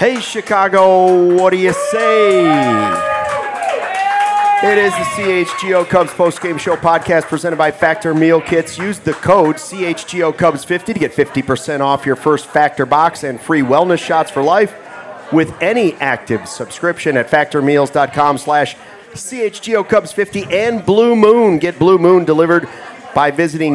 Hey, Chicago, what do you say? It is the CHGO Cubs postgame show podcast presented by Factor Meal Kits. Use the code CHGO Cubs 50 to get 50% off your first Factor box and free wellness shots for life with any active subscription at factormeals.com/CHGO Cubs 50 and Blue Moon. Get Blue Moon delivered by visiting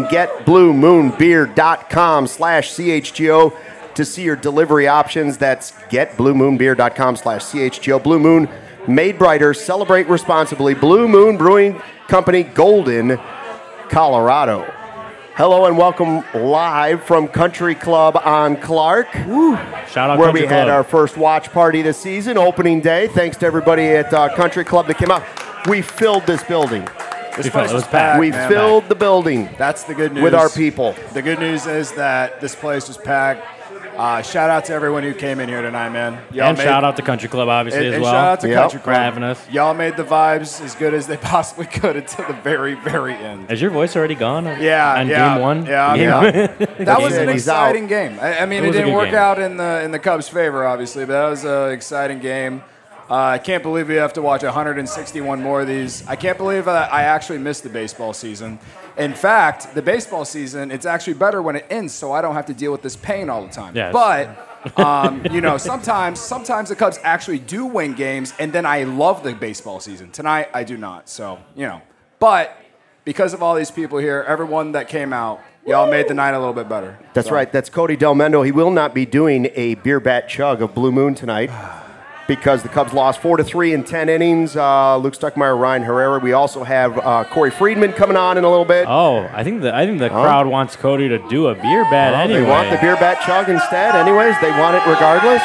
getbluemoonbeer.com/CHGO to see your delivery options. That's getbluemoonbeer.com/CHGO. Blue Moon, made brighter, celebrate responsibly. Blue Moon Brewing Company, Golden, Colorado. Hello and welcome live from Country Club on Clark. Woo. Shout out where Country we Club. had our first watch party this season, opening day. Thanks to everybody at Country Club that came out. We filled this building. This place was packed. We filled the building. That's the good news. With our people. The good news is that this place was packed. Shout out to everyone who came in here tonight, man. Shout out to Country Club, obviously, as well. Shout out to Country Club for having us. Y'all made the vibes as good as they possibly could until the very, very end. Is your voice already gone? Yeah, on game one. Yeah. That was an He's exciting game. I mean, it was a didn't good work game. out in the Cubs' favor, obviously, but that was an exciting game. I can't believe we have to watch 161 more of these. I can't believe I actually missed the baseball season. In fact, the baseball season, it's actually better when it ends, so I don't have to deal with this pain all the time. Yes. But sometimes the Cubs actually do win games, and then I love the baseball season. Tonight, I do not. So, But because of all these people here, everyone that came out, y'all made the night a little bit better. That's right. That's Cody Del Mendo. He will not be doing a beer bat chug of Blue Moon tonight because the Cubs lost 4-3 in 10 innings. Luke Stuckmeyer, Ryan Herrera. We also have Corey Friedman coming on in a little bit. Oh, I think the crowd wants Cody to do a beer bat anyway. They want the beer bat chug instead anyways. They want it regardless.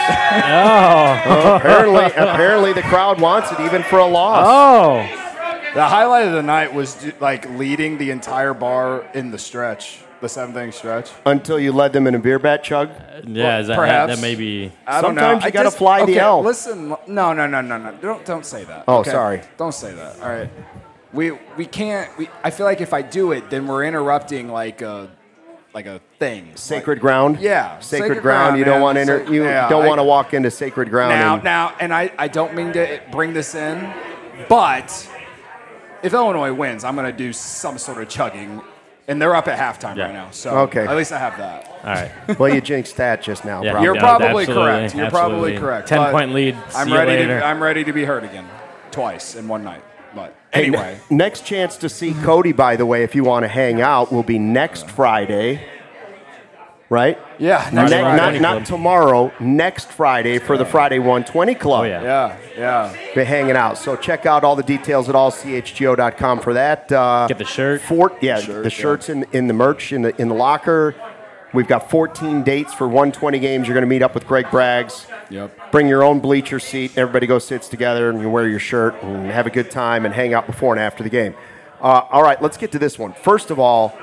Apparently the crowd wants it even for a loss. Oh. The highlight of the night was like leading the entire bar in the stretch, the 7th-inning stretch. Until you led them in a beer bat chug? Yeah, is that, perhaps. that may be... I don't know. Sometimes you got to fly the L. Listen, no. Don't say that. Oh, okay? sorry. Don't say that. All right. We can't. I feel like if I do it, then we're interrupting like a thing. Sacred ground? Yeah. Sacred ground. You don't want to walk into sacred ground. Now, I don't mean to bring this in, but if Illinois wins, I'm going to do some sort of chugging. And they're up at halftime right now, so okay. At least I have that. All right. Well, you jinxed that just now. Yeah. Probably. You're probably Absolutely, correct. You're probably absolutely. correct. 10-point lead. I'm ready to be hurt again, twice in one night. But anyway, Next chance to see Cody, by the way, if you want to hang out, will be next Friday. Right? yeah, next Friday. Not tomorrow. Next Friday for the Friday 120 Club. Oh, yeah. Yeah. Be hanging out. So check out all the details at allchgo.com for that. Get the shirt. The shirts in the merch in the locker. We've got 14 dates for 120 games. You're going to meet up with Greg Braggs. Yep. Bring your own bleacher seat. Everybody goes sits together and you wear your shirt and have a good time and hang out before and after the game. All right, let's get to this one. First of all,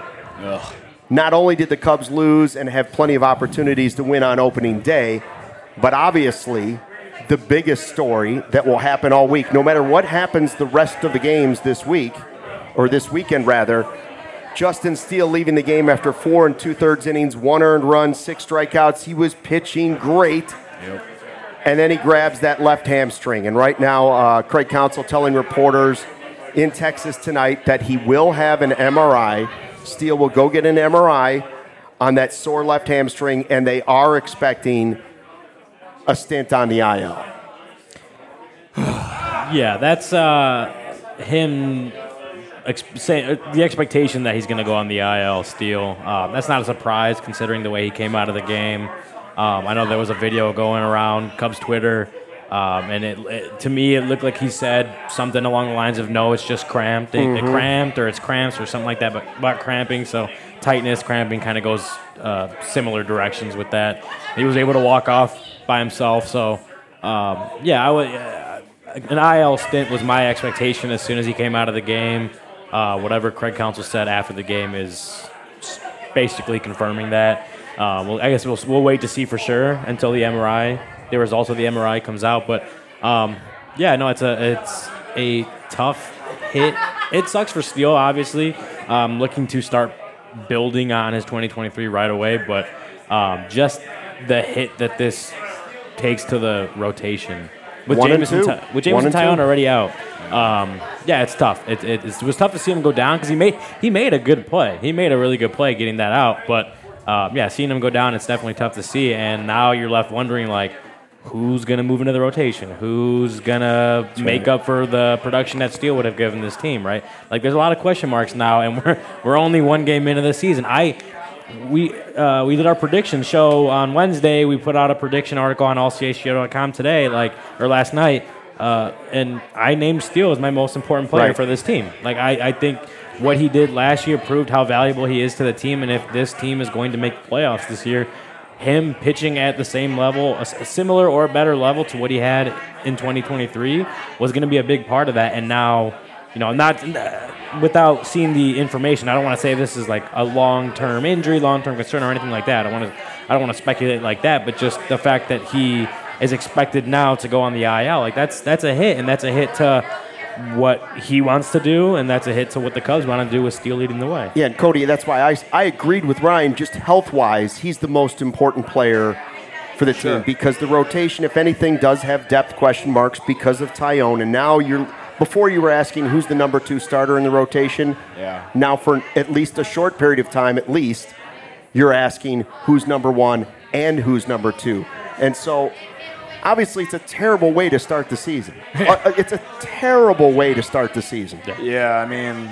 not only did the Cubs lose and have plenty of opportunities to win on opening day, but obviously the biggest story that will happen all week, no matter what happens the rest of the games this week, or this weekend rather, Justin Steele leaving the game after 4 2/3 innings, 1 earned run, 6 strikeouts. He was pitching great. Yep. And then he grabs that left hamstring. And right now, Craig Counsell telling reporters in Texas tonight that he will have an MRI. Steele will go get an MRI on that sore left hamstring, and they are expecting a stint on the IL. Yeah, that's him saying the expectation that he's going to go on the IL. Steele. That's not a surprise considering the way he came out of the game. I know there was a video going around Cubs Twitter, and it to me it looked like he said something along the lines of, "No, it's just cramped. They cramped, or it's cramps, or something like that." But about cramping, so tightness, cramping kind of goes similar directions with that. He was able to walk off by himself, so I would. An IL stint was my expectation as soon as he came out of the game. Whatever Craig Counsell said after the game is basically confirming that. I guess we'll wait to see for sure until the MRI, the results of the MRI comes out. But it's a tough hit. It sucks for Steele, obviously. Looking to start building on his 2023 right away, but just the hit that this takes to the rotation. With One and Jameis two. and Jameis and Tyone already out, yeah, it's tough. It was tough to see him go down because he made a good play. He made a really good play getting that out. But yeah, seeing him go down, it's definitely tough to see. And now you're left wondering like, who's gonna move into the rotation? Who's gonna make up for the production that Steele would have given this team? Right? Like there's a lot of question marks now, and we're only one game into the season. We did our prediction show on Wednesday. We put out a prediction article on allchgo.com today, or last night, and I named Steele as my most important player for this team. Like I think what he did last year proved how valuable he is to the team, and if this team is going to make the playoffs this year, him pitching at the same level, a similar or better level to what he had in 2023, was going to be a big part of that. And now, not without seeing the information, I don't want to say this is like a long-term injury, long-term concern, or anything like that. I don't want to speculate like that, but just the fact that he is expected now to go on the IL, like that's a hit, and that's a hit to what he wants to do, and that's a hit to what the Cubs want to do with Steele leading the way. Yeah, and Cody, that's why I agreed with Ryan. Just health-wise, he's the most important player for the team because the rotation, if anything, does have depth question marks because of Tyone. And now before you were asking who's the number 2 starter in the rotation. Yeah. Now for at least a short period of time, you're asking who's number 1 and who's number 2. And so obviously, it's a terrible way to start the season. It's a terrible way to start the season. Yeah, I mean,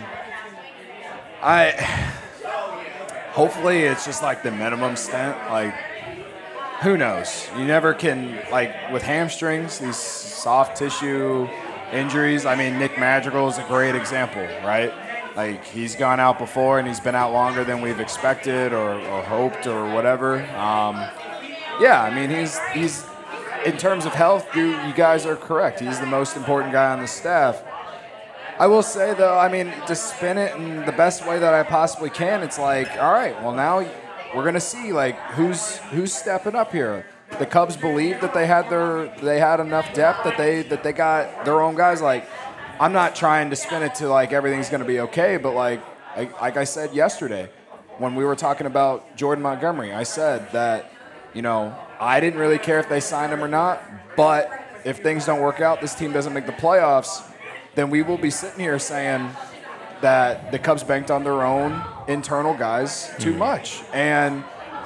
hopefully it's just like the minimum stint. Like, who knows? You never can, like, with hamstrings, these soft tissue injuries. I mean, Nick Madrigal is a great example, right? Like, he's gone out before, and he's been out longer than we've expected or hoped or whatever. Yeah, I mean, he's in terms of health, you guys are correct. He's the most important guy on the staff. I will say, though, I mean, to spin it in the best way that I possibly can, it's like, all right, well, now we're going to see, like, who's stepping up here. The Cubs believed that they had enough depth that they got their own guys. Like, I'm not trying to spin it to, like, everything's going to be okay, but, like I said yesterday when we were talking about Jordan Montgomery, I said that, I didn't really care if they signed him or not, but if things don't work out, this team doesn't make the playoffs, then we will be sitting here saying that the Cubs banked on their own internal guys too much. And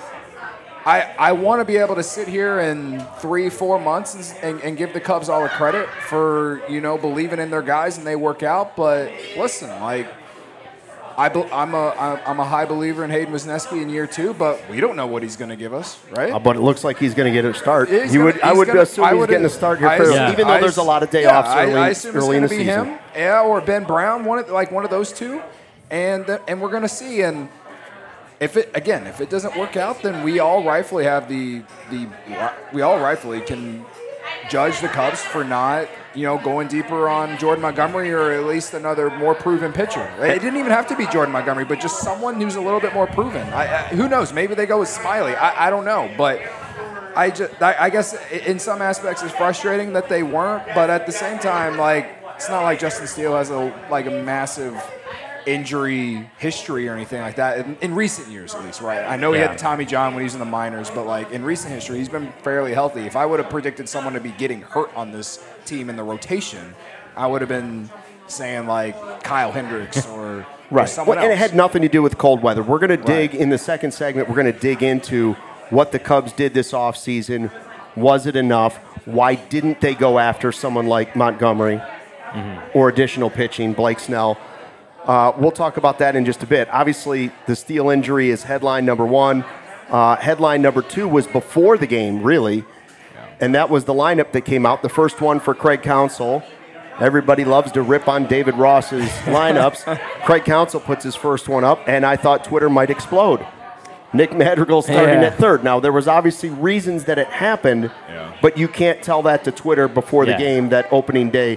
I want to be able to sit here in 3-4 months and give the Cubs all the credit for, believing in their guys and they work out. But listen, like, I'm a high believer in Hayden Wesneski in year 2, but we don't know what he's going to give us, right? But it looks like he's going to get a start. I would assume he's getting a start here fairly, even though there's a lot of day offs I assume early in the season. Him, or Ben Brown, one of those two, and we're going to see. And if it doesn't work out, then we all rightfully have we all rightfully can judge the Cubs for not, going deeper on Jordan Montgomery or at least another more proven pitcher. It didn't even have to be Jordan Montgomery, but just someone who's a little bit more proven. Who knows? Maybe they go with Smiley. I don't know, but I guess in some aspects it's frustrating that they weren't, but at the same time, like, it's not like Justin Steele has a massive injury history or anything like that in recent years, at least, right? I know he had Tommy John when he was in the minors, but like in recent history, he's been fairly healthy. If I would have predicted someone to be getting hurt on this team in the rotation, I would have been saying like Kyle Hendricks or someone else. And it had nothing to do with cold weather. We're going to dig in the second segment. We're going to dig into what the Cubs did this offseason. Was it enough? Why didn't they go after someone like Montgomery or additional pitching, Blake Snell? We'll talk about that in just a bit. Obviously, the Steele injury is headline number 1. Headline number 2 was before the game, really, and that was the lineup that came out. The first one for Craig Counsell. Everybody loves to rip on David Ross's lineups. Craig Counsell puts his first one up, and I thought Twitter might explode. Nick Madrigal starting at third. Now, there was obviously reasons that it happened, but you can't tell that to Twitter before the game, that opening day.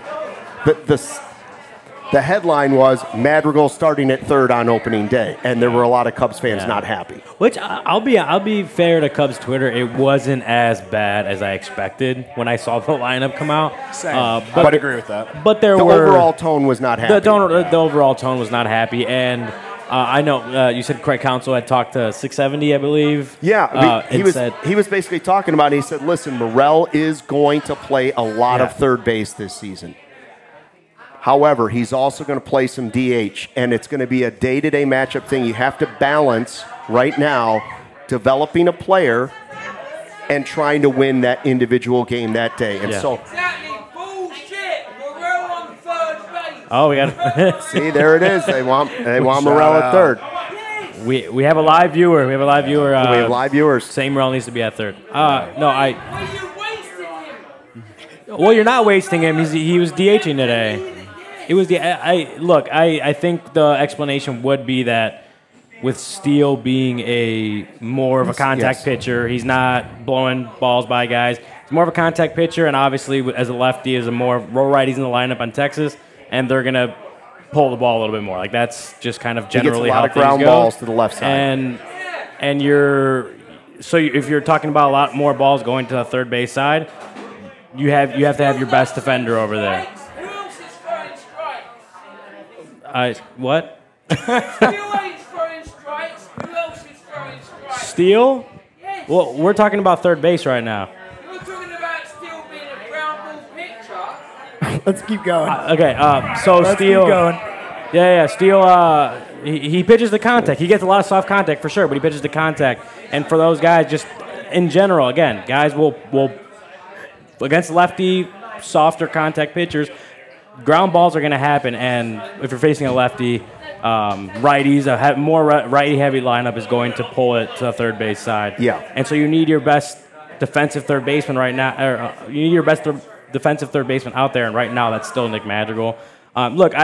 The headline was Madrigal starting at third on opening day, and there were a lot of Cubs fans not happy. Which I'll be fair to Cubs Twitter, it wasn't as bad as I expected when I saw the lineup come out. Same. But I agree with that. But the overall tone was not happy. The overall tone was not happy, and I know you said Craig Counsell had talked to 670, I believe. Yeah, he was basically talking about it. He said, listen, Morel is going to play a lot of third base this season. However, he's also going to play some DH, and it's going to be a day-to-day matchup thing. You have to balance right now developing a player and trying to win that individual game that day. And so oh, we got see, there it is. They want Morel at third. We have a live viewer. We have live viewers. Saying Morel needs to be at third. Well, you're not wasting him. He was DHing today. It was I think the explanation would be that with Steele being a more of a contact pitcher, he's not blowing balls by guys. He's more of a contact pitcher, and obviously as a lefty, as a more row righties in the lineup on Texas, and they're gonna pull the ball a little bit more. Like that's just kind of generally how things go. He gets a lot of ground balls to the left side, and if you're talking about a lot more balls going to the third base side, you have to have your best defender over there. What? Steele? Well, we're talking about third base right now. You're talking about Steele being a ground ball pitcher. Let's keep going. So Steele. Keep going. Yeah. Steele. He pitches the contact. He gets a lot of soft contact for sure, but he pitches the contact. And for those guys, just in general, again, guys will against lefty, softer contact pitchers, ground balls are going to happen. And if you're facing a lefty, righties, a more righty-heavy lineup is going to pull it to the third base side. Yeah. And so you need your best defensive third baseman right now. You need your best defensive third baseman out there, and right now that's still Nick Madrigal. Look,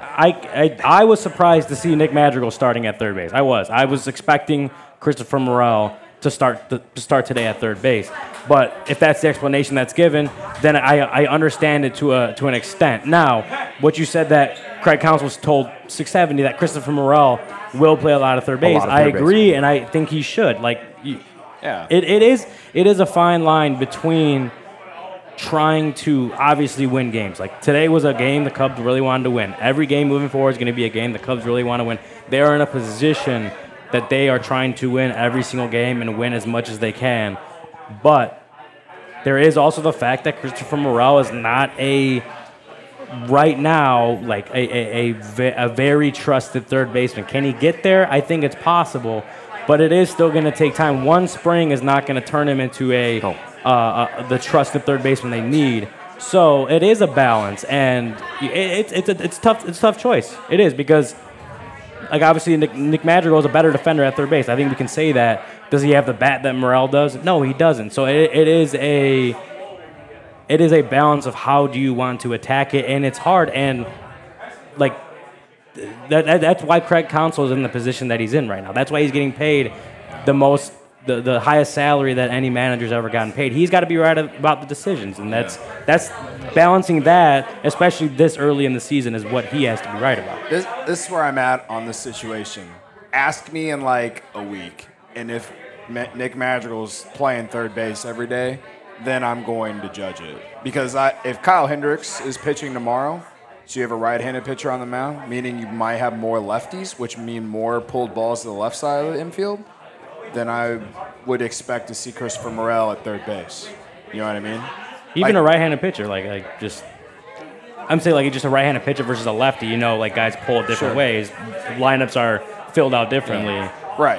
I was surprised to see Nick Madrigal starting at third base. I was expecting Christopher Morel to start today at third base. But if that's the explanation that's given, then I understand it to an extent. Now, what you said that Craig Counsell told 670 that Christopher Morel will play a lot of third base. I agree, and I think he should. It is a fine line between trying to obviously win games. Like today was a game the Cubs really wanted to win. Every game moving forward is going to be a game the Cubs really want to win. They are in a position that they are trying to win every single game and win as much as they can. But there is also the fact that Christopher Morel is not right now like a very trusted third baseman. Can he get there? I think it's possible, but it is still going to take time. One spring is not going to turn him into the trusted third baseman they need. So it is a balance, and it's tough. It's a tough choice. It is because, like, obviously Nick Madrigal is a better defender at third base. I think we can say that. Does he have the bat that Morel does? No, he doesn't. So it is a balance of how do you want to attack it, and it's hard. And like that's why Craig Counsell is in the position that he's in right now. That's why he's getting paid the highest salary that any manager's ever gotten paid. He's got to be right about the decisions, and that's balancing that, especially this early in the season, is what he has to be right about. This is where I'm at on this situation. Ask me in like a week, and if Nick Madrigal's playing third base every day, then I'm going to judge it. Because if Kyle Hendricks is pitching tomorrow, so you have a right-handed pitcher on the mound, meaning you might have more lefties, which mean more pulled balls to the left side of the infield, then I would expect to see Christopher Morel at third base. You know what I mean? Even a right-handed pitcher, I'm saying like just a right-handed pitcher versus a lefty. You know, like guys pull it different ways. Lineups are filled out differently. Yeah. Right.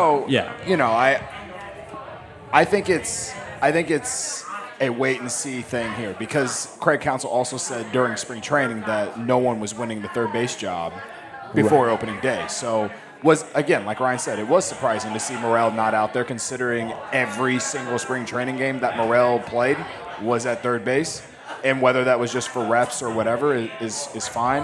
I think it's a wait and see thing here because Craig Counsell also said during spring training that no one was winning the third base job before opening day. So was, again, like Ryan said, it was surprising to see Morel not out there considering every single spring training game that Morel played was at third base. And whether that was just for reps or whatever is fine.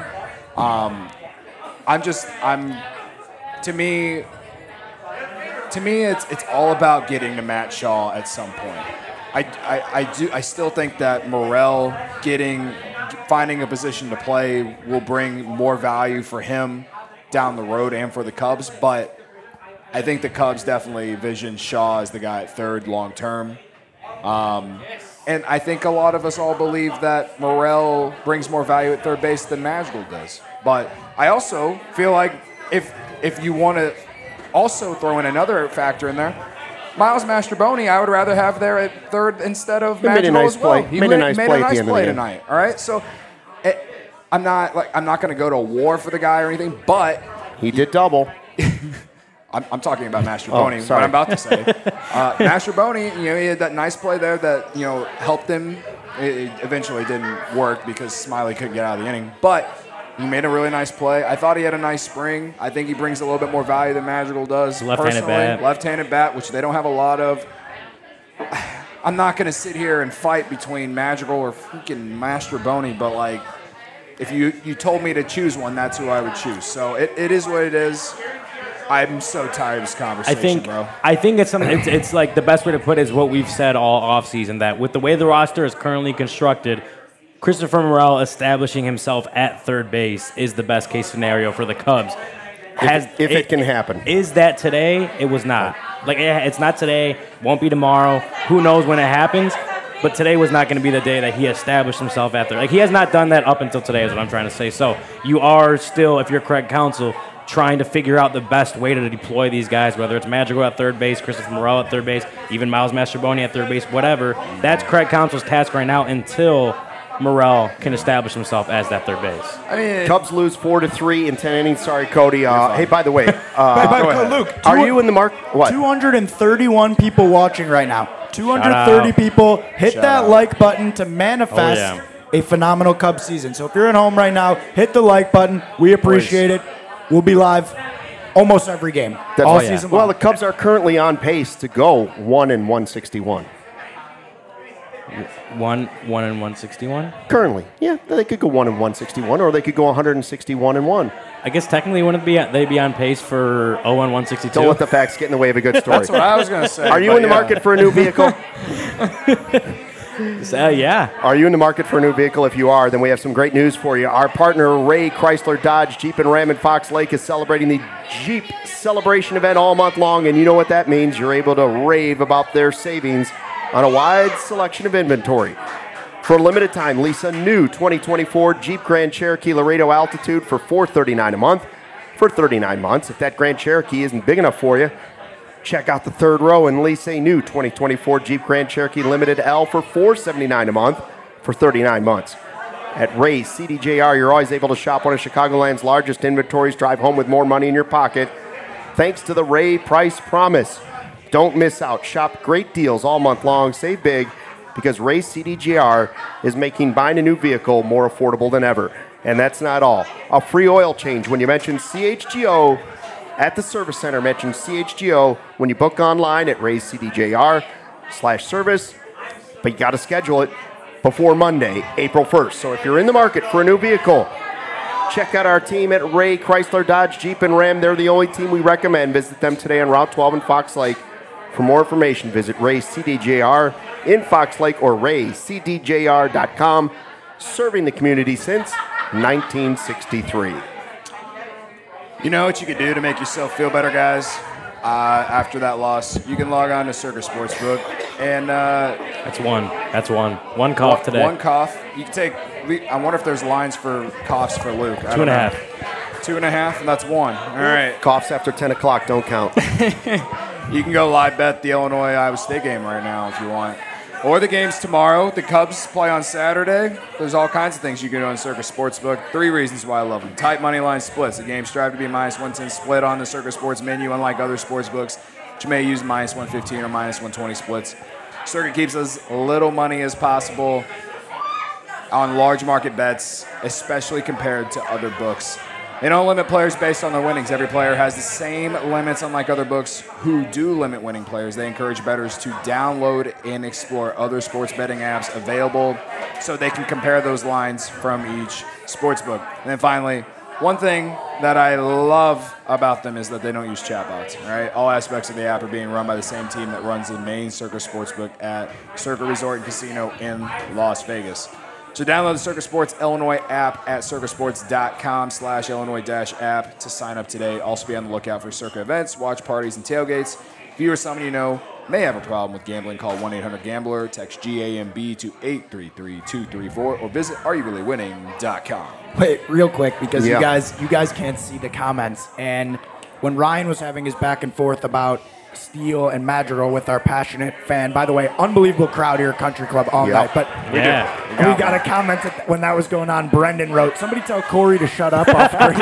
To me, it's all about getting to Matt Shaw at some point. I still think that Morel finding a position to play will bring more value for him down the road and for the Cubs, but I think the Cubs definitely vision Shaw as the guy at third long term. And I think a lot of us all believe that Morel brings more value at third base than Madrigal does. But I also feel like if if you want to also throw in another factor in there, Miles Mastrobuoni, I would rather have there at third instead of Madrigal nice as well. play. He Made a nice play at the end of the game. tonight. All right, so I'm not going to go to war for the guy or anything, but He did double. I'm talking about Mastrobuoni. sorry. What I'm about to say, Mastrobuoni, he had that nice play there that helped him. It eventually didn't work because Smiley couldn't get out of the inning, but he made a really nice play. I thought he had a nice spring. I think he brings a little bit more value than Madrigal does. Left-handed bat. Left-handed bat, which they don't have a lot of. I'm not going to sit here and fight between Madrigal or freaking Mastrobuoni, but like, if you told me to choose one, that's who I would choose. So it is what it is. I'm so tired of this conversation, bro. I think it's something. It's like the best way to put it is what we've said all offseason, that with the way the roster is currently constructed, Christopher Morel establishing himself at third base is the best case scenario for the Cubs. If it can happen. Is that today? It was not. Like, it's not today. Won't be tomorrow. Who knows when it happens? But today was not going to be the day that he established himself at third. Like, he has not done that up until today is what I'm trying to say. So you are still, if you're Craig Counsell, trying to figure out the best way to deploy these guys, whether it's Madrigal at third base, Christopher Morel at third base, even Miles Mastrobuoni at third base, whatever. That's Craig Counsell's task right now until Morel can establish himself as that third base. I mean, Cubs lose 4-3 in 10 innings. Sorry, Cody. Hey, by the way, Luke, are you in the mark? What? 231 people watching right now. 230 people. Hit that like button to manifest a phenomenal Cubs season. So if you're at home right now, hit the like button. We appreciate it. We'll be live almost every game all season long. Well, the Cubs are currently on pace to go 1-161. 1-161? Currently, yeah, they could go 1-161, or they could go 161-1. I guess technically wouldn't they be on pace for 0-162? Don't let the facts get in the way of a good story. that's what I was going to say. Are you in the market for a new vehicle? Yeah. Are you in the market for a new vehicle? If you are, then we have some great news for you. Our partner, Ray Chrysler Dodge Jeep and Ram in Fox Lake, is celebrating the Jeep Celebration event all month long, and you know what that means. You're able to rave about their savings on a wide selection of inventory. For a limited time, lease a new 2024 Jeep Grand Cherokee Laredo Altitude for $439 a month for 39 months. If that Grand Cherokee isn't big enough for you, check out the third row and lease a new 2024 Jeep Grand Cherokee Limited L for $479 a month for 39 months. At Ray's CDJR, you're always able to shop one of Chicagoland's largest inventories, drive home with more money in your pocket, thanks to the Ray Price Promise. Don't miss out. Shop great deals all month long. Save big because Ray's CDJR is making buying a new vehicle more affordable than ever. And that's not all. A free oil change when you mention CHGO at the service center. Mention CHGO when you book online at Ray'sCDJR/service. But you got to schedule it before Monday, April 1st. So if you're in the market for a new vehicle, check out our team at Ray Chrysler Dodge Jeep and Ram. They're the only team we recommend. Visit them today on Route 12 in Fox Lake. For more information, visit Ray's CDJR in Fox Lake or Ray'sCDJR.com. Serving the community since 1963. You know what you could do to make yourself feel better, guys? After that loss, you can log on to Circus Sportsbook, and That's one. One cough today. One cough. You can take. I wonder if there's lines for coughs for Luke. 2.5. 2.5, and that's one. All right. Coughs after 10 o'clock don't count. You can go live bet the Illinois-Iowa State game right now if you want. Or the games tomorrow. The Cubs play on Saturday. There's all kinds of things you can do on Circus Sportsbook. 3 reasons why I love them. Tight money line splits. The games strive to be -110 split on the Circus Sports menu, unlike other sports books, which may use -115 or -120 splits. Circuit keeps as little money as possible on large market bets, especially compared to other books. They don't limit players based on their winnings. Every player has the same limits, unlike other books who do limit winning players. They encourage bettors to download and explore other sports betting apps available so they can compare those lines from each sports book. And then finally, one thing that I love about them is that they don't use chatbots. Right? All aspects of the app are being run by the same team that runs the main Circus Sportsbook at Circa Resort and Casino in Las Vegas. So download the Circa Sports Illinois app at circasports.com/Illinois-app to sign up today. Also be on the lookout for Circa events, watch parties, and tailgates. If you or someone you know may have a problem with gambling, call 1-800-GAMBLER, text GAMB to 833-234, or visit areyourreallywinning.com. Wait, real quick, because Yeah. you guys can't see the comments, and when Ryan was having his back and forth about Steele and Madrigal with our passionate fan. By the way, unbelievable crowd here at Country Club all night. But we got a comment when that was going on. Brendan wrote, "Somebody tell Corey to shut up off screen."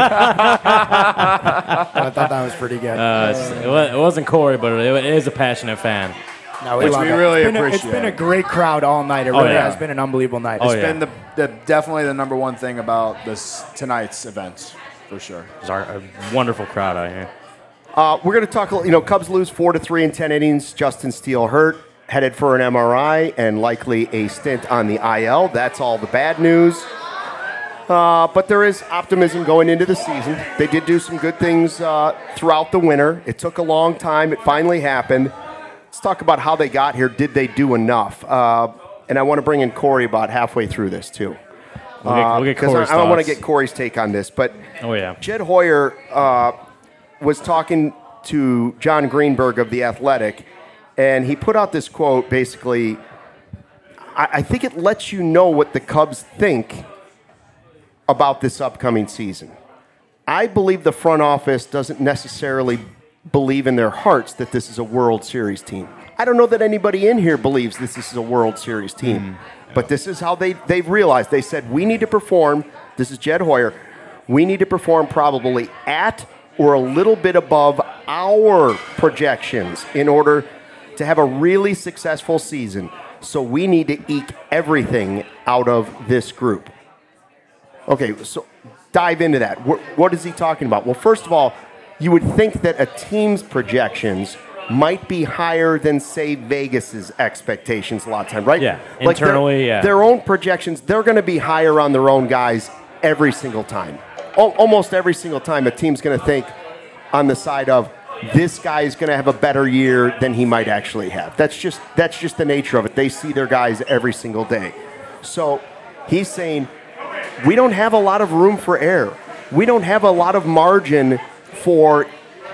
I thought that was pretty good. It wasn't Corey, but it is a passionate fan. No, Which we really appreciate. It's been a great crowd all night. It really has been an unbelievable night. It's been definitely the number one thing about tonight's events, for sure. There's a wonderful crowd out here. We're going to talk. Cubs lose 4-3 in 10 innings. Justin Steele hurt, headed for an MRI, and likely a stint on the IL. That's all the bad news. But there is optimism going into the season. They did do some good things throughout the winter. It took a long time. It finally happened. Let's talk about how they got here. Did they do enough? And I want to bring in Corey about halfway through this, too. We'll get Corey's I want to thoughts. get Corey's take on this. But Jed Hoyer was talking to John Greenberg of The Athletic, and he put out this quote, basically, I think it lets you know what the Cubs think about this upcoming season. I believe the front office doesn't necessarily believe in their hearts that this is a World Series team. I don't know that anybody in here believes this is a World Series team, but this is how they've realized. They said, we need to perform, this is Jed Hoyer, we need to perform probably at or a little bit above our projections in order to have a really successful season. So we need to eke everything out of this group. Okay, so dive into that. What is he talking about? Well, first of all, you would think that a team's projections might be higher than, say, Vegas's expectations a lot of time, right? Yeah, like internally, their own projections, they're going to be higher on their own guys every single time. Almost every single time a team's going to think on the side of, this guy is going to have a better year than he might actually have. That's just the nature of it. They see their guys every single day. So he's saying, we don't have a lot of room for error. We don't have a lot of margin for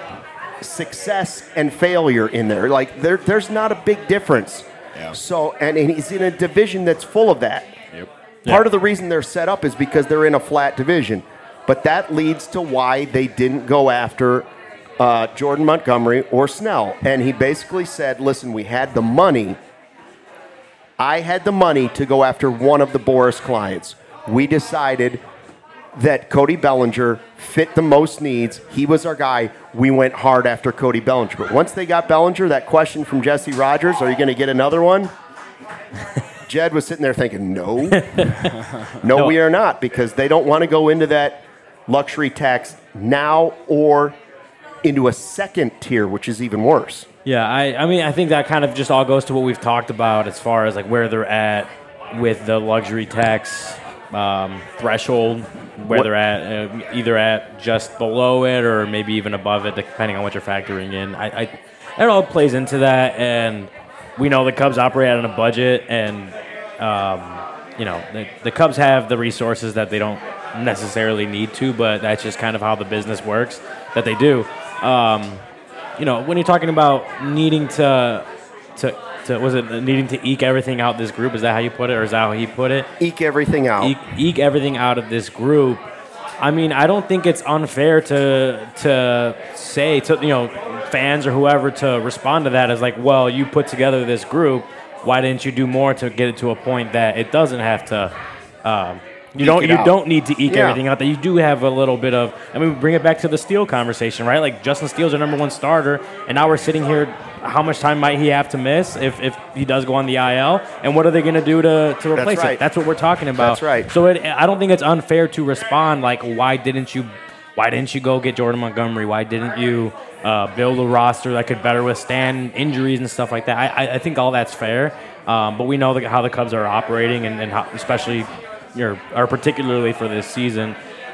success and failure in there. Like there's not a big difference. Yeah. So and he's in a division that's full of that. Yep. Part of the reason they're set up is because they're in a flat division. But that leads to why they didn't go after Jordan Montgomery or Snell. And he basically said, listen, we had the money. I had the money to go after one of the Boris clients. We decided that Cody Bellinger fit the most needs. He was our guy. We went hard after Cody Bellinger. But once they got Bellinger, that question from Jesse Rogers, are you going to get another one? Jed was sitting there thinking, no, we are not, because they don't want to go into that luxury tax now or into a second tier, which is even worse. Yeah, I mean, I think that kind of just all goes to what we've talked about as far as like where they're at with the luxury tax threshold, where they're at, either at just below it or maybe even above it, depending on what you're factoring in. It all plays into that, and we know the Cubs operate on a budget, and the Cubs have the resources that they don't necessarily need to, but that's just kind of how the business works, that they do. When you're talking about needing to eke everything out this group? Is that how you put it, or is that how he put it? Eke everything out. Eke everything out of this group. I mean, I don't think it's unfair to say to fans or whoever to respond to that as like, well, you put together this group. Why didn't you do more to get it to a point that it doesn't have to? You don't need to eke everything out. That you do have a little bit of. I mean, bring it back to the Steele conversation, right? Like Justin Steele's our number one starter, and now we're sitting here. How much time might he have to miss if he does go on the IL? And what are they going to do to replace it? That's what we're talking about. That's right. So I don't think it's unfair to respond like, why didn't you go get Jordan Montgomery? Why didn't you build a roster that could better withstand injuries and stuff like that? I think all that's fair, but we know how the Cubs are operating and how, especially. Or particularly for this season.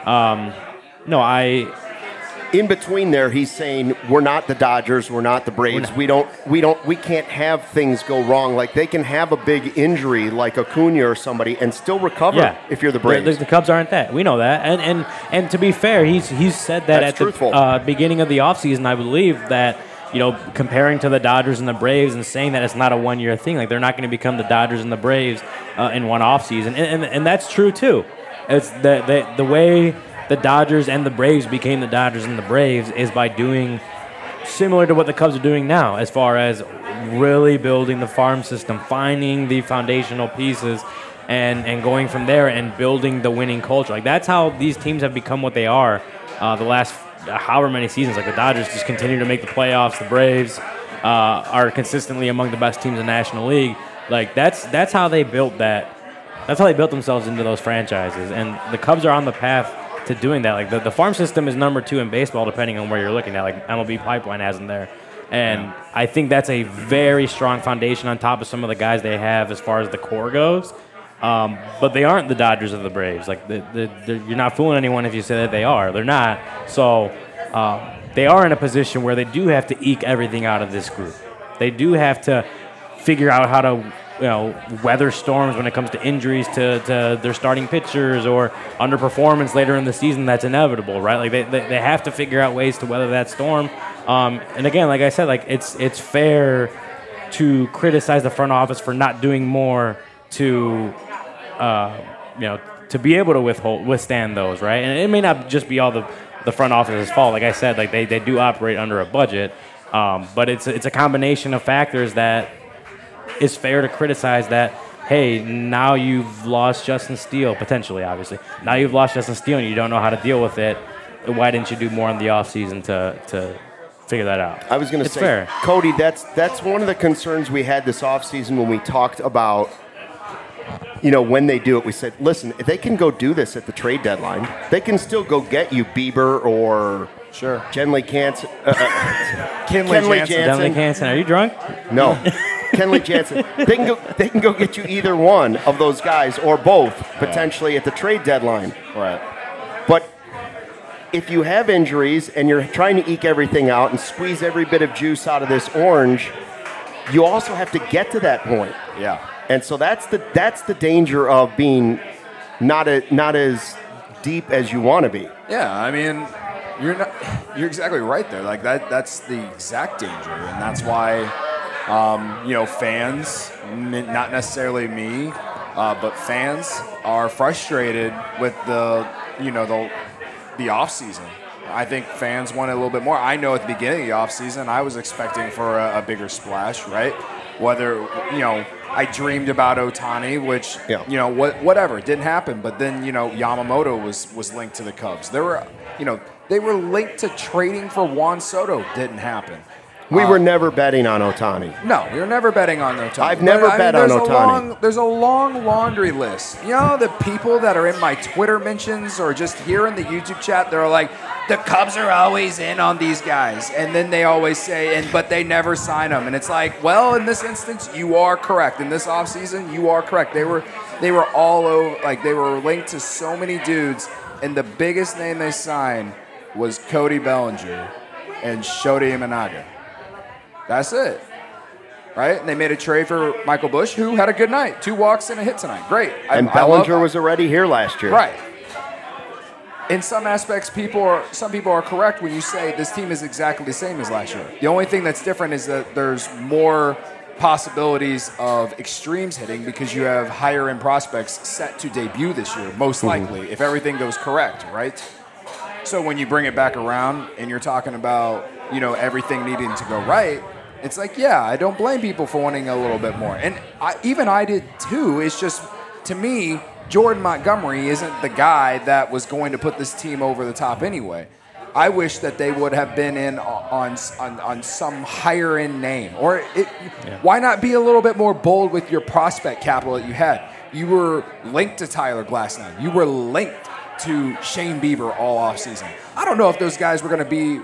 In between there, he's saying we're not the Dodgers, we're not the Braves. We can't have things go wrong. Like they can have a big injury like Acuna or somebody and still recover if you're the Braves. The Cubs aren't that. We know that. And to be fair, he's said that That's at truthful. The beginning of the offseason, I believe that. Comparing to the Dodgers and the Braves and saying that it's not a one-year thing. Like, they're not going to become the Dodgers and the Braves in one offseason. And that's true, too. It's the way the Dodgers and the Braves became the Dodgers and the Braves is by doing similar to what the Cubs are doing now, as far as really building the farm system, finding the foundational pieces, and going from there and building the winning culture. Like, that's how these teams have become what they are the last however many seasons. Like, the Dodgers just continue to make the playoffs. The Braves are consistently among the best teams in the National League. Like, that's how they built that. That's how they built themselves into those franchises. And the Cubs are on the path to doing that. Like, the farm system is number 2 in baseball, depending on where you're looking at. Like, MLB Pipeline has them there. And I think that's a very strong foundation on top of some of the guys they have as far as the core goes. But they aren't the Dodgers or the Braves. Like, you're not fooling anyone if you say that they are. They're not. So they are in a position where they do have to eke everything out of this group. They do have to figure out how to weather storms when it comes to injuries to their starting pitchers or underperformance later in the season. That's inevitable, right? Like, they have to figure out ways to weather that storm. And again, like I said, like it's fair to criticize the front office for not doing more to to be able to withstand those, right? And it may not just be all the front office's fault. Like I said, like they do operate under a budget, but it's a combination of factors that is fair to criticize. That, hey, now you've lost Justin Steele, potentially, obviously. Now you've lost Justin Steele and you don't know how to deal with it. Why didn't you do more in the offseason to figure that out? I was going to say, fair. Cody, that's one of the concerns we had this offseason when we talked about, when they do it. We said, listen, if they can go do this at the trade deadline, they can still go get you Bieber or Kenley Jansen. Kenley Jansen. Are you drunk? No. Kenley Jansen. They can go get you either one of those guys or both potentially at the trade deadline. Right. But if you have injuries and you're trying to eke everything out and squeeze every bit of juice out of this orange, you also have to get to that point. Yeah. And so that's the danger of being not as deep as you want to be. Yeah, I mean, you're exactly right there. Like that's the exact danger, and that's why fans, not necessarily me, but fans are frustrated with the off season. I think fans want a little bit more. I know at the beginning of the off season, I was expecting for a bigger splash, right? Whether I dreamed about Ohtani, which whatever, it didn't happen. But then Yamamoto was linked to the Cubs. They were linked to trading for Juan Soto. Didn't happen. We were never betting on Ohtani. No, we were never betting on Ohtani. I've never bet on Ohtani. There's a long laundry list. The people that are in my Twitter mentions or just here in the YouTube chat, they're like, the Cubs are always in on these guys. And then they always say, but they never sign them. And it's like, well, in this instance, you are correct. In this offseason, you are correct. They were all over, like they were linked to so many dudes. And the biggest name they signed was Cody Bellinger and Shota Imanaga. That's it, right? And they made a trade for Michael Busch, who had a good night. 2 walks and a hit tonight. Great. And Bellinger was already here last year. Right. In some aspects, some people are correct when you say this team is exactly the same as last year. The only thing that's different is that there's more possibilities of extremes hitting because you have higher-end prospects set to debut this year, most likely, if everything goes correct, right? So when you bring it back around and you're talking about, everything needing to go right, it's like, yeah, I don't blame people for wanting a little bit more. And I did too. It's just, to me, Jordan Montgomery isn't the guy that was going to put this team over the top anyway. I wish that they would have been in on some higher end name. Why not be a little bit more bold with your prospect capital that you had? You were linked to Tyler Glasnow. You were linked to Shane Bieber all offseason. I don't know if those guys were going to be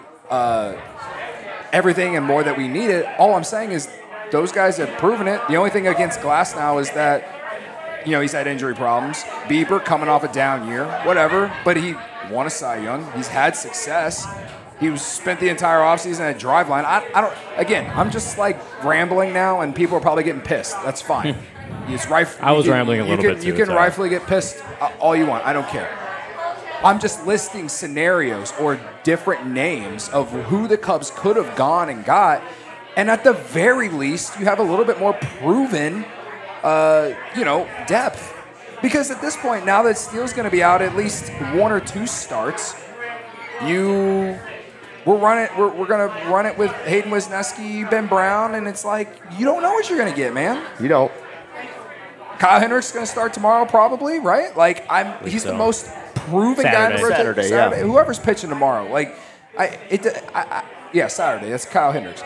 everything and more that we needed. All I'm saying is those guys have proven it. The only thing against Glasnow is that, he's had injury problems. Bieber coming off a down year, whatever, but he won a Cy Young. He's had success. He spent the entire offseason at Driveline. I'm just like rambling now, and people are probably getting pissed. That's fine. I was rambling a little bit too. You can rightfully get pissed all you want. I don't care. I'm just listing scenarios or different names of who the Cubs could have gone and got. And at the very least, you have a little bit more proven, depth. Because at this point, now that Steele's going to be out at least 1 or 2 starts, we're going to run it with Hayden Wisniewski, Ben Brown, and it's like you don't know what you're going to get, man. You don't. Kyle Hendricks is going to start tomorrow, probably, right? Like he's the most proven guy in the rotation. Saturday. Whoever's pitching tomorrow, like Saturday. That's Kyle Hendricks.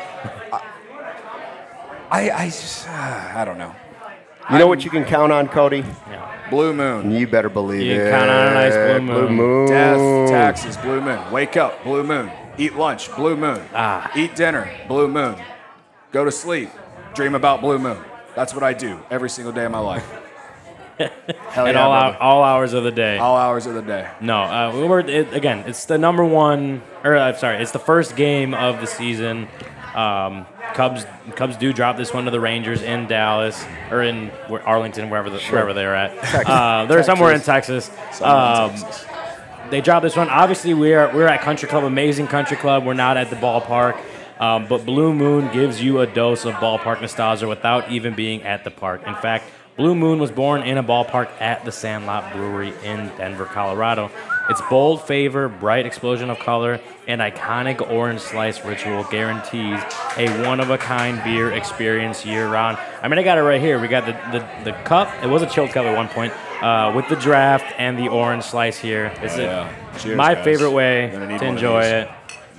I don't know. You know what you can count on, Cody? Yeah. Blue moon. You better believe You it. can count on a nice blue moon. Blue moon. Death, taxes, blue moon. Wake up, blue moon. Eat lunch, blue moon. Eat dinner, blue moon. Go to sleep, dream about blue moon. That's what I do every single day of my life. Hell And yeah, all hours of the day. all hours of the day. No, it's the number one, it's the first game of the season. Cubs do drop this one to the Rangers in Dallas or in Arlington, wherever they're at. They're somewhere in Texas. They drop this one. Obviously, we're at Country Club, amazing Country Club. We're not at the ballpark. But Blue Moon gives you a dose of ballpark nostalgia without even being at the park. In fact, Blue Moon was born in a ballpark at the Sandlot Brewery in Denver, Colorado. Its bold flavor, bright explosion of color, and iconic orange slice ritual guarantees a one-of-a-kind beer experience year-round. I mean, I got it right here. We got the cup. It was a chilled cup at one point with the draft and the orange slice here. It's Cheers, my guys. favorite way Gonna need to one of enjoy these. it.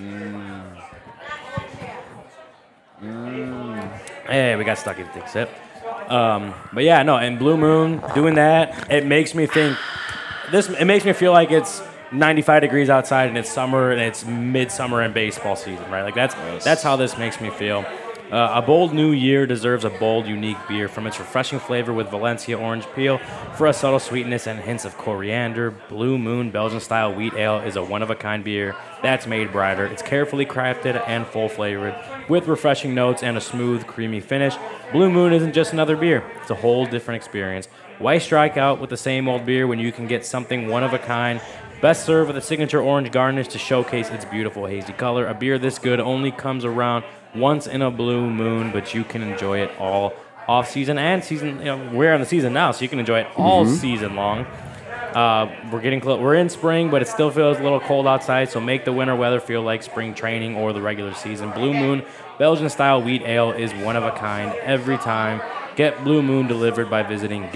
Hey, we got Stucky to take a sip. But yeah, no, and Blue Moon doing that, it makes me think. It makes me feel like it's 95 degrees outside and it's summer and it's midsummer and baseball season, right? Like that's how this makes me feel. A bold new year deserves a bold, unique beer. From its refreshing flavor with Valencia orange peel for a subtle sweetness and hints of coriander, Blue Moon Belgian-style wheat ale is a one-of-a-kind beer that's made brighter. It's carefully crafted and full-flavored with refreshing notes and a smooth, creamy finish. Blue Moon isn't just another beer. It's a whole different experience. Why strike out with the same old beer when you can get something one-of-a-kind? Best served with a signature orange garnish to showcase its beautiful hazy color. A beer this good only comes around once in a blue moon, but you can enjoy it all off season and season. You know, we're in the season now, so you can enjoy it all season long. We're getting close. We're in spring, but it still feels a little cold outside, so make the winter weather feel like spring training or the regular season. Blue Moon Belgian-style wheat ale is one of a kind every time. Get Blue Moon delivered by visiting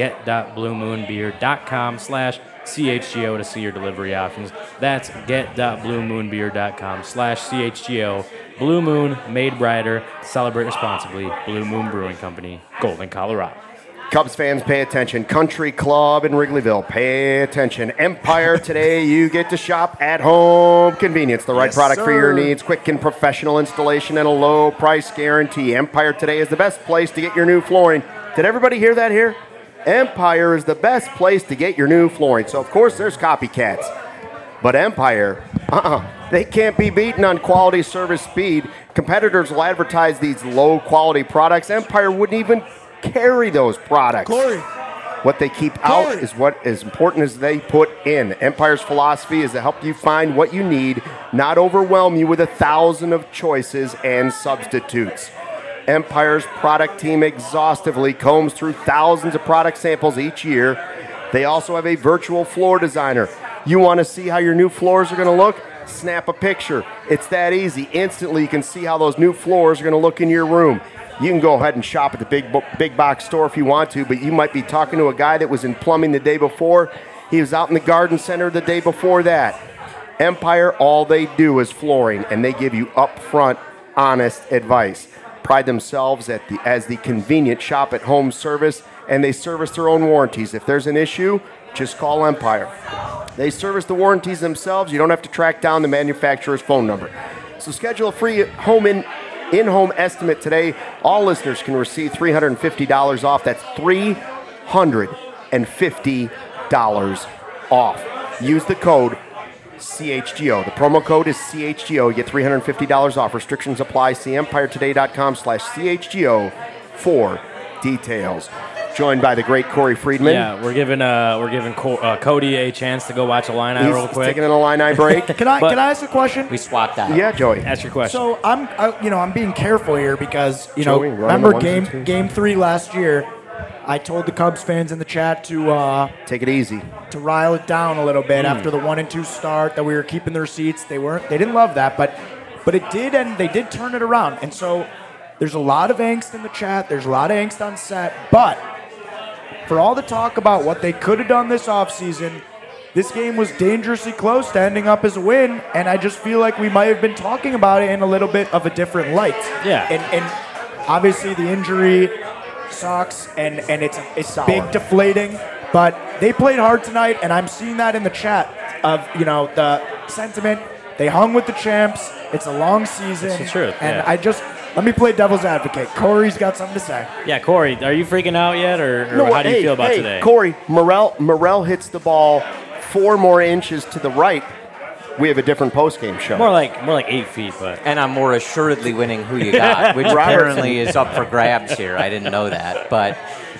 get.bluemoonbeer.com/CHGO to see your delivery options. That's get.bluemoonbeer.com/CHGO. Blue Moon, made brighter. Celebrate responsibly. Blue Moon Brewing Company, Golden, Colorado. Cubs fans, pay attention. Country Club in Wrigleyville, pay attention. Empire today, you get to shop at home convenience. The right Yes, product for your sir. needs, quick and professional installation, and a low price guarantee. Empire today is the best place to get your new flooring. Did everybody hear that here? Empire is the best place to get your new flooring. So, of course, there's copycats. But Empire, they can't be beaten on quality, service, speed. Competitors will advertise these low-quality products. Empire wouldn't even carry those products. Corey. What they keep out is what is important as they put in. Empire's philosophy is to help you find what you need, not overwhelm you with 1,000 of choices and substitutes. Empire's product team exhaustively combs through thousands of product samples each year. They also have a virtual floor designer. You want to see how your new floors are going to look? Snap a picture. It's that easy. Instantly, you can see how those new floors are going to look in your room. You can go ahead and shop at the big box store if you want to, but you might be talking to a guy that was in plumbing the day before. He was out in the garden center the day before that. Empire, all they do is flooring, and they give you upfront, honest advice. Pride themselves as the convenient shop-at-home service, and they service their own warranties. If there's an issue, just call Empire. They service the warranties themselves. You don't have to track down the manufacturer's phone number. So schedule a free in-home estimate today. All listeners can receive $350 off. That's $350 off. Use the code CHGO. The promo code is CHGO. You get $350 off. Restrictions apply. See empiretoday.com/CHGO for details. Joined by the great Corey Friedman. Yeah, we're giving Cody a chance to go watch a line real He's quick. taking an Illini break. Can I ask a question? We swapped out. Yeah, Joey. Ask your question. So I'm being careful here because Joey, run remember the ones and twos. game 3 last year. I told the Cubs fans in the chat to Take it easy. to rile it down a little bit after the 1-2 start, that we were keeping their seats. They didn't love that, but it did, and they did turn it around. And so there's a lot of angst in the chat. There's a lot of angst on set, but for all the talk about what they could have done this offseason, this game was dangerously close to ending up as a win, and I just feel like we might have been talking about it in a little bit of a different light. Yeah. And obviously the injury sucks, and it's big deflating, but they played hard tonight, and I'm seeing that in the chat of, the sentiment. They hung with the champs. It's a long season. That's the truth, And yeah. let me play devil's advocate. Corey's got something to say. Yeah, Corey, are you freaking out yet, or how do you feel about today? Corey, Morel hits the ball 4 more inches to the right. We have a different postgame show. More like 8 feet, but. And I'm more assuredly winning Who You Got, which apparently is up for grabs here. I didn't know that. But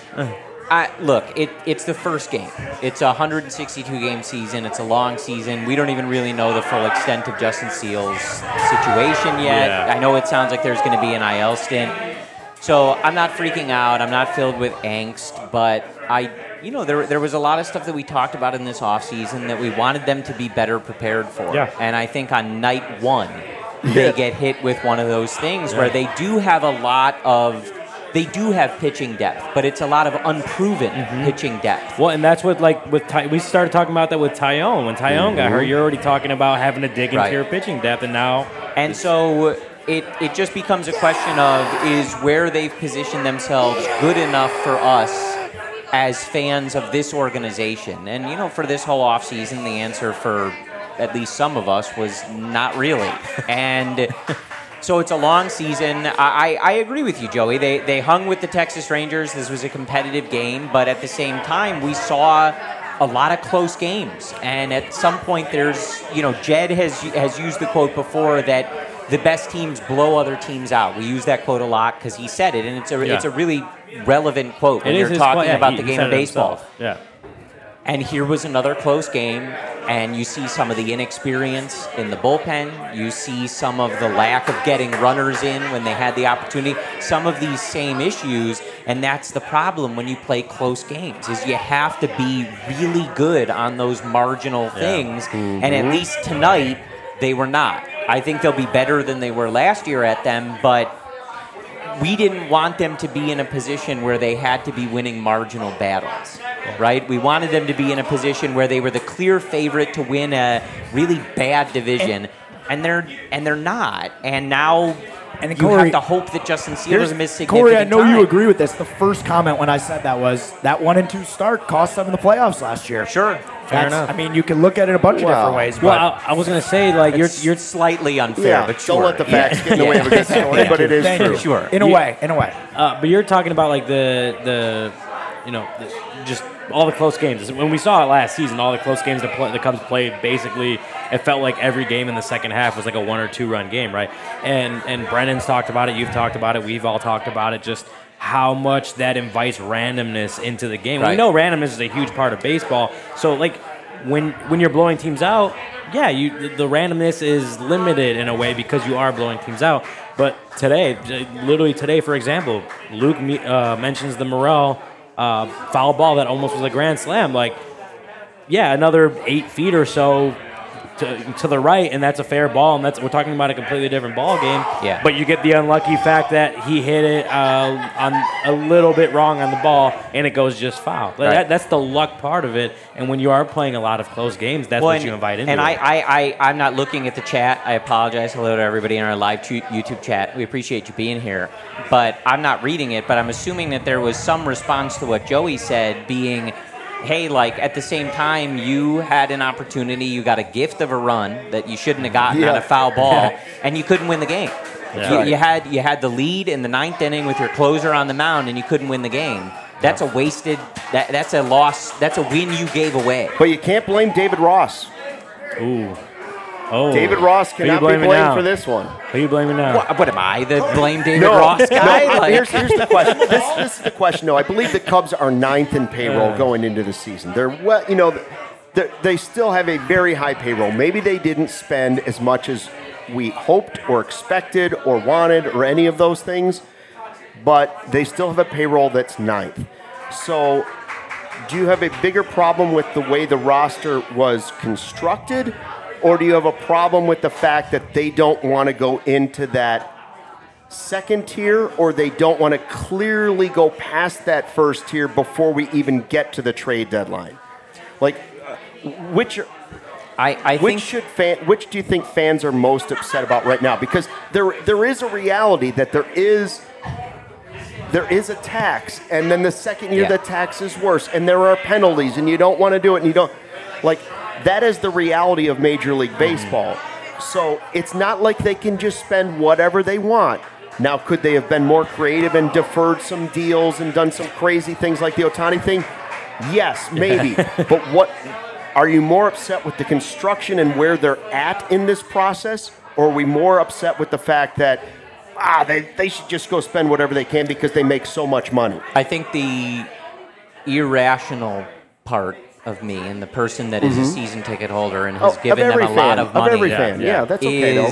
look, it's the first game. It's a 162-game season. It's a long season. We don't even really know the full extent of Justin Seals' situation yet. Yeah. I know it sounds like there's going to be an IL stint. So I'm not freaking out. I'm not filled with angst. But there was a lot of stuff that we talked about in this offseason that we wanted them to be better prepared for. Yeah. And I think on night 1, they get hit with one of those things where they do have they do have pitching depth, but it's a lot of unproven pitching depth. Well, and that's what, we started talking about that with Tyone. When Tyone got hurt, you're already talking about having to dig into your pitching depth, and now. And so it just becomes a question of, is where they've positioned themselves good enough for us as fans of this organization? And, for this whole offseason, the answer for at least some of us was not really. And so it's a long season. I agree with you, Joey. They hung with the Texas Rangers. This was a competitive game, but at the same time, we saw a lot of close games. And at some point, there's, Jed has used the quote before that the best teams blow other teams out. We use that quote a lot because he said it, and it's a really relevant quote when you're talking about the game of baseball. Yeah. And here was another close game, and you see some of the inexperience in the bullpen. You see some of the lack of getting runners in when they had the opportunity. Some of these same issues, and that's the problem when you play close games, is you have to be really good on those marginal things, and at least tonight, they were not. I think they'll be better than they were last year at them, but we didn't want them to be in a position where they had to be winning marginal battles, right? We wanted them to be in a position where they were the clear favorite to win a really bad division, and they're not. And now you have to hope that Justin Seals doesn't miss significant Corey, I know time. you agree with this. The first comment when I said that was that 1-2 start cost them in the playoffs last year. Sure. Fair enough. I mean, you can look at it a bunch of different ways. But Well, I was going to say, You're slightly unfair, but sure. Don't let the facts get in the way of a good story, but it is Thank true. you. Sure. In a way. but you're talking about just all the close games. When we saw it last season, all the close games the Cubs played, basically, it felt like every game in the second half was like a 1 or 2 run game, right? And Brennan's talked about it, you've talked about it, we've all talked about it, just how much that invites randomness into the game. Right. We know randomness is a huge part of baseball. So, when you're blowing teams out, the randomness is limited in a way because you are blowing teams out. But literally today, for example, Luke mentions the Morel foul ball that almost was a grand slam. Another 8 feet or so to the right, and that's a fair ball, and we're talking about a completely different ball game. Yeah. But you get the unlucky fact that he hit it on a little bit wrong on the ball, and it goes just foul. Right. That's the luck part of it. And when you are playing a lot of close games, that's what you invite into. And it. I'm not looking at the chat. I apologize. Hello to everybody in our live YouTube chat. We appreciate you being here. But I'm not reading it, but I'm assuming that there was some response to what Joey said, being, hey, at the same time, you had an opportunity, you got a gift of a run that you shouldn't have gotten on a foul ball, and you couldn't win the game. Yeah. You had the lead in the 9th inning with your closer on the mound, and you couldn't win the game. That's a wasted. That's a loss. That's a win you gave away. But you can't blame David Ross. Ooh. Oh. David Ross Who you cannot be blaming blamed now? for this one. Who are you blaming now? What am I, the blame David Ross guy? Here's the question. This is the question. No, I believe the Cubs are 9th in payroll going into the season. They still have a very high payroll. Maybe they didn't spend as much as we hoped or expected or wanted or any of those things, but they still have a payroll that's 9th. So, do you have a bigger problem with the way the roster was constructed, or do you have a problem with the fact that they don't want to go into that second tier, or they don't want to clearly go past that first tier before we even get to the trade deadline? Like, which do you think fans are most upset about right now? Because there is a reality that there is a tax, and then the second year the tax is worse, and there are penalties, and you don't want to do it, and you don't like. That is the reality of Major League Baseball. So it's not like they can just spend whatever they want. Now, could they have been more creative and deferred some deals and done some crazy things like the Ohtani thing? Yes, maybe. But what are you more upset with the construction and where they're at in this process, or are we more upset with the fact that they should just go spend whatever they can because they make so much money? I think the irrational part of me and the person that is a season ticket holder and has given them a lot of money of every fan. Yeah, that's okay though.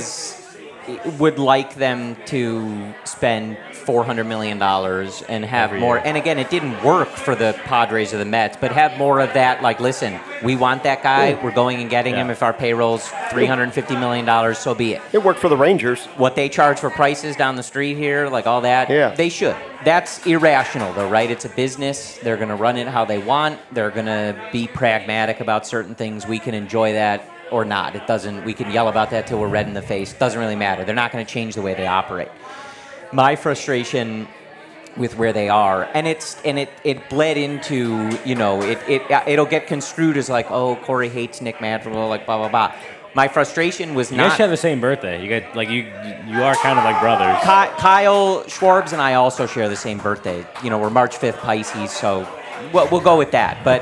Would like them to spend $400 million and have more. And again, it didn't work for the Padres or the Mets, but have more of that. Like, listen, we want that guy. We're going and getting him. If our payroll's $350 million, so be it. It worked for the Rangers. What they charge for prices down the street here, like all that, they should. That's irrational, though, right? It's a business. They're going to run it how they want. They're going to be pragmatic about certain things. We can enjoy that or not. It doesn't. We can yell about that till we're red in the face. Doesn't really matter. They're not going to change the way they operate. My frustration with where they are, and it bled into, it'll get construed as like, oh, Corey hates Nick Madrigal, like blah blah blah. My frustration was you not. You guys share the same birthday. You guys you are kind of like brothers. Kyle Schwarbs and I also share the same birthday. We're March 5th Pisces, so we'll go with that. But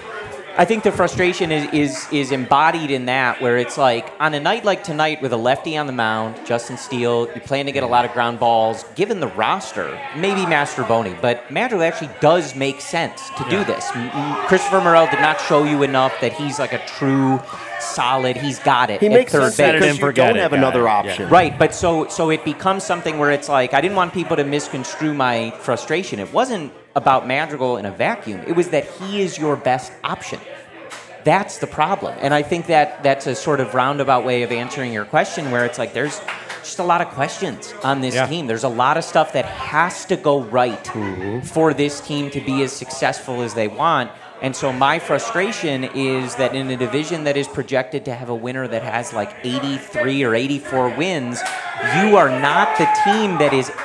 I think the frustration is embodied in that, where it's like, on a night like tonight with a lefty on the mound, Justin Steele, you plan to get a lot of ground balls. Given the roster, maybe Mastroboni, but Madrigal actually does make sense to do this. Christopher Morel did not show you enough that he's like a true solid. He's got it. He makes third sense base because you don't have another option. Right, but so it becomes something where it's like, I didn't want people to misconstrue my frustration. It wasn't about Madrigal in a vacuum. It was that he is your best option. That's the problem. And I think that's a sort of roundabout way of answering your question, where it's like there's just a lot of questions on this team. There's a lot of stuff that has to go right for this team to be as successful as they want. And so my frustration is that in a division that is projected to have a winner that has like 83 or 84 wins, you are not the team that is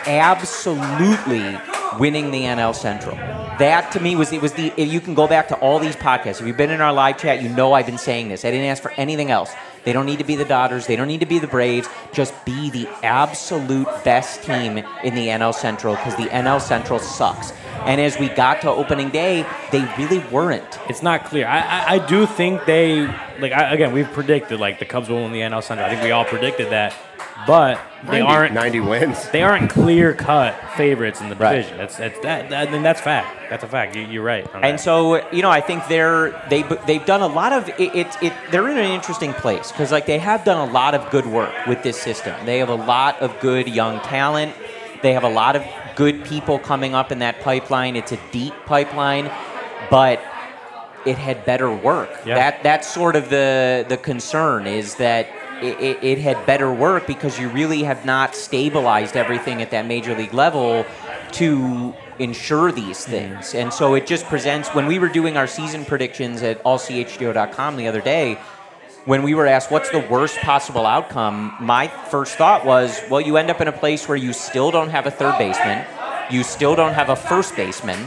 absolutely winning the NL Central. That to me you can go back to all these podcasts. If you've been in our live chat, I've been saying this. I didn't ask for anything else. They don't need to be the Dodgers. They don't need to be the Braves. Just be the absolute best team in the NL Central, because the NL Central sucks. And as we got to opening day, they really weren't. It's not clear. I do think they, again, we've predicted, the Cubs will win the NL Central. I think we all predicted that. But they aren't 90 wins. They aren't clear-cut favorites in the division. That's fact. That's a fact. You're right. And so I think they've done a lot of it. They're in an interesting place because they have done a lot of good work with this system. They have a lot of good young talent. They have a lot of good people coming up in that pipeline. It's a deep pipeline, but it had better work. Yeah. That's sort of the concern, is that it had better work because you really have not stabilized everything at that major league level to ensure these things. And so it just presents, when we were doing our season predictions at allchgo.com the other day, when we were asked what's the worst possible outcome, my first thought was, well, you end up in a place where you still don't have a third baseman, you still don't have a first baseman,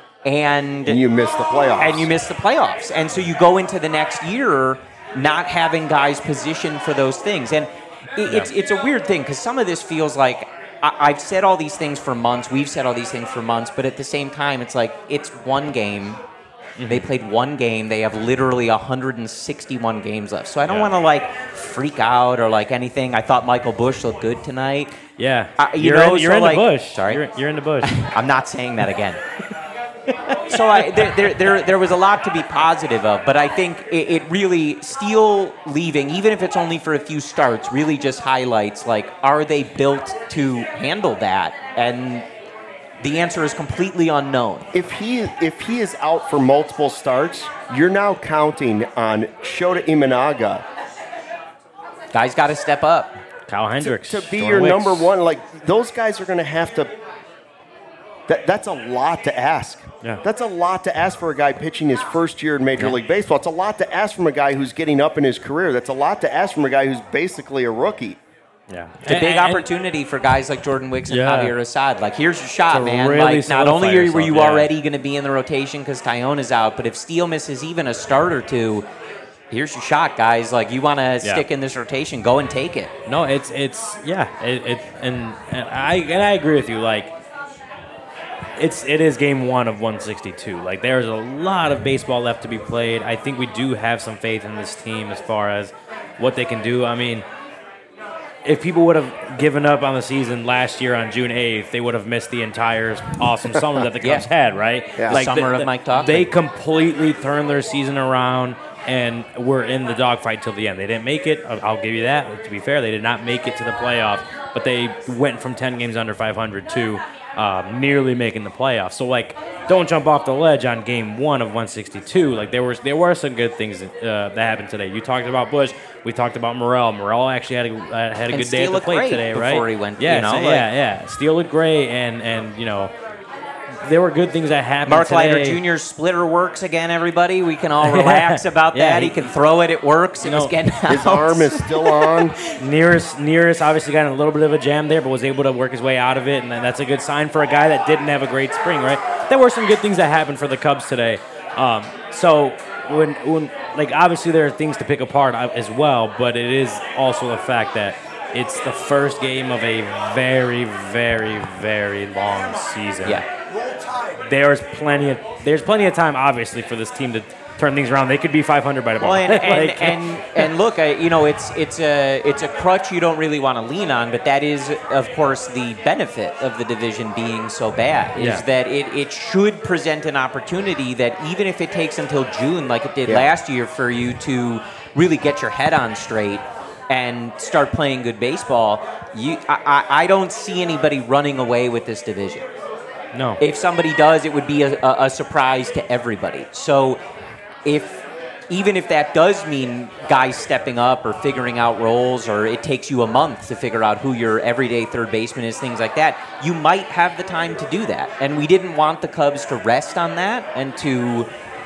and you miss the playoffs. And so you go into the next year not having guys positioned for those things. And it's a weird thing, because some of this feels like I've said all these things for months, we've said all these things for months, but at the same time, it's like it's one game. They played one game. They have literally 161 games left. So I don't want to freak out or anything. I thought Michael Busch looked good tonight. Yeah. You're in the bush. Sorry? You're in the bush. I'm not saying that again. So there was a lot to be positive of, but I think it really, Steele leaving, even if it's only for a few starts, really just highlights, are they built to handle that? And The answer is completely unknown. If he is out for multiple starts, you're now counting on Shota Imanaga Guys got to step up. Kyle Hendricks. to be Jordan your Wicks. number one. Like, those guys are going to have to. That's a lot to ask. Yeah. That's a lot to ask for a guy pitching his first year in Major League Baseball. It's a lot to ask from a guy who's getting up in his career. That's a lot to ask from a guy who's basically a rookie. Yeah. It's a big opportunity for guys like Jordan Wicks and Yeah. Javier Assad. Like, here's your shot, To man. really Like, not solidify only were yourself, you yeah. already going to be in the rotation because Tyone is out, but if Steele misses even a start or two, here's your shot, guys. Like, you want to stick in this rotation, go and take it. No, and I agree with you. Like, it is game 1 of 162. Like, there's a lot of baseball left to be played. I think we do have some faith in this team as far as what they can do. I mean, if people would have given up on the season last year on June 8th, they would have missed the entire awesome summer that the Cubs had, right? Yeah. Like Summer of Mike Tauchman. They completely turned their season around and were in the dogfight till the end. They didn't make it. I'll give you that. To be fair, they did not make it to the playoffs, but they went from 10 games under 500 to nearly making the playoffs. So, like, don't jump off the ledge on game 1 of 162. Like, there were some good things that happened today. You talked about Bush. We talked about Morel. Morel actually had a good day at the plate today, right? Before he went, yeah, you know, yeah. Steele looked great, and you know, there were good things that happened Mark today. Leiter Jr.'s splitter works again, everybody. We can all relax about Yeah, that. He can throw it. It works. It was getting out. His arm is still on. Nearest obviously got in a little bit of a jam there, but was able to work his way out of it, and that's a good sign for a guy that didn't have a great spring, right? There were some good things that happened for the Cubs today. So when like, obviously there are things to pick apart as well, but it is also the fact that it's the first game of a very, very, very long season. Yeah. There's plenty of time, obviously, for this team to turn things around. They could be 500 by tomorrow. Well, and look, you know, it's a crutch you don't really want to lean on, but that is, of course, the benefit of the division being so bad is that it should present an opportunity that even if it takes until June, like it did last year, for you to really get your head on straight and start playing good baseball. I don't see anybody running away with this division. No. If somebody does, it would be a surprise to everybody. So even if that does mean guys stepping up or figuring out roles, or it takes you a month to figure out who your everyday third baseman is, things like that, you might have the time to do that. And we didn't want the Cubs to rest on that and to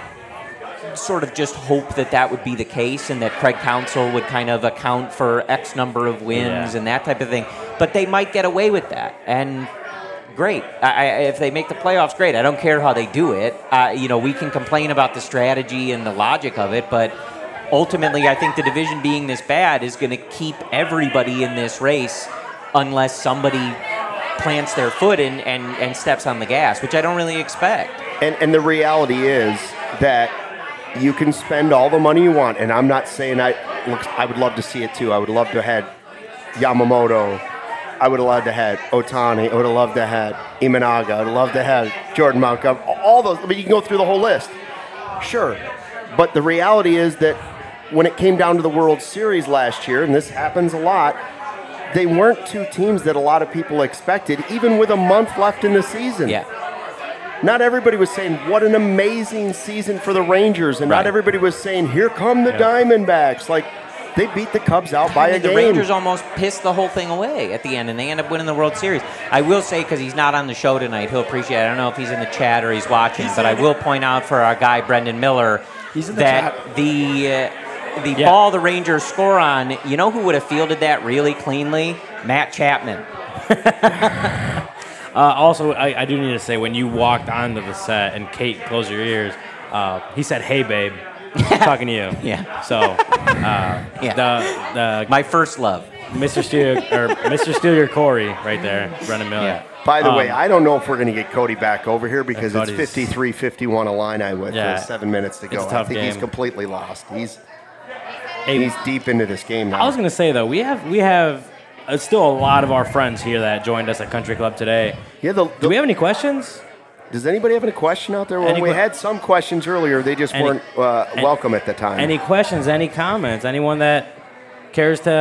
sort of just hope that would be the case and that Craig Counsell would kind of account for X number of wins and that type of thing. But they might get away with that. And great. If they make the playoffs, great. I don't care how they do it. You know, we can complain about the strategy and the logic of it, but ultimately I think the division being this bad is going to keep everybody in this race unless somebody plants their foot in and steps on the gas, which I don't really expect. And the reality is that you can spend all the money you want, and I'm not saying I would love to see it too. I would love to have had Yamamoto. I would have loved to have Ohtani. I would have loved to have Imanaga. I would have loved to have Jordan Montgomery. All those. I mean, you can go through the whole list. Sure. But the reality is that when it came down to the World Series last year, and this happens a lot, they weren't two teams that a lot of people expected, even with a month left in the season. Yeah. Not everybody was saying, what an amazing season for the Rangers. And not everybody was saying, here come the Diamondbacks. Like, they beat the Cubs out by a game. The Rangers almost pissed the whole thing away at the end, and they end up winning the World Series. I will say, because he's not on the show tonight, he'll appreciate it. I don't know if he's in the chat or he's watching, but I will point out for our guy, Brendan Miller, that the ball the Rangers score on, you know who would have fielded that really cleanly? Matt Chapman. Also, I do need to say, when you walked onto the set and Kate closed your ears, he said, "Hey, babe." Talking to you. Yeah. So, the my first love. Mr. Steele Corey right there, Brendan Miller. Yeah. By the way, I don't know if we're going to get Cody back over here because it's Cody's- 53-51 Illini with 7 minutes to go. It's a tough I think he's game. completely lost. He's Hey, deep into this game now. I was going to say, though, we have still a lot of our friends here that joined us at Country Club today. Yeah, Do we have any questions? Does anybody have any question out there? Well, we had some questions earlier. They just weren't welcome at the time. Any questions, any comments, anyone that cares to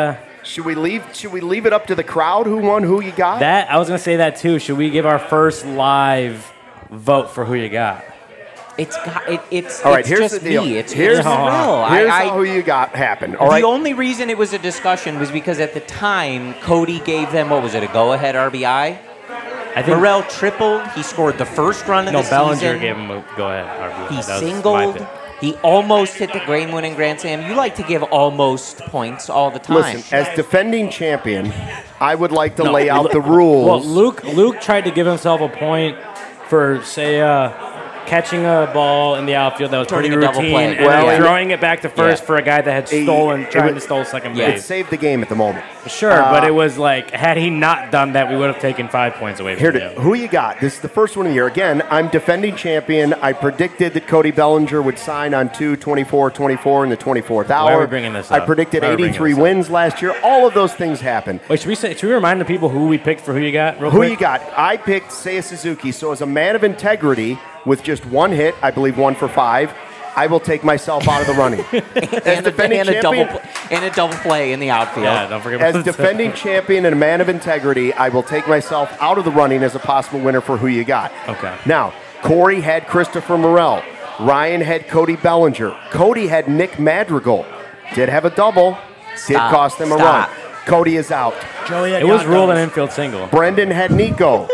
Should we leave it up to the crowd who won, who you got? That I was gonna say that too. Should we give our first live vote for who you got? It's All right, it's here's just the deal. me. It's Here's Morrell. Here's how who you got happened. All the right. only reason it was a discussion was because at the time Cody gave them what was it, a go-ahead RBI? I think Morrell tripled. He scored the first run of the Bellinger season. gave him a go ahead. RBI. He That was my singled. pick. He almost hit the game-winning grand slam. You like to give almost points all the time. Listen, as defending champion, I would like to No, lay out the Well, rules. Luke tried to give himself a point for say catching a ball in the outfield that was Turning pretty a double routine, play. and Well, then yeah. throwing it back to first Yeah. for a guy that had It tried was- to steal second Yeah. It base. saved the game at the moment. Sure, but it was like had he not done that, we would have taken 5 points away Here, from him. who you got? This is the first one of the year. Again, I'm defending champion. I predicted that Cody Bellinger would sign on 2/24/24 in the 24th hour. Why are we bringing this I up? predicted Why are we bringing 83 this up? wins last year. All of those things happened. Wait, should we remind the people who we picked for who you got? Real Who quick? you got? I picked Seiya Suzuki. So as a man of integrity, with just one hit, I believe 1 for 5, I will take myself out of the running. and, defending a champion- double play in the outfield. Yeah, don't forget. As about defending champion and a man of integrity, I will take myself out of the running as a possible winner for who you got. Okay. Now, Corey had Christopher Morrell. Ryan had Cody Bellinger. Cody had Nick Madrigal. Did have a double. Did Stop. cost them a Stop. run. Cody is out. Joey had It was got ruled an those. infield single. Brendan had Nico.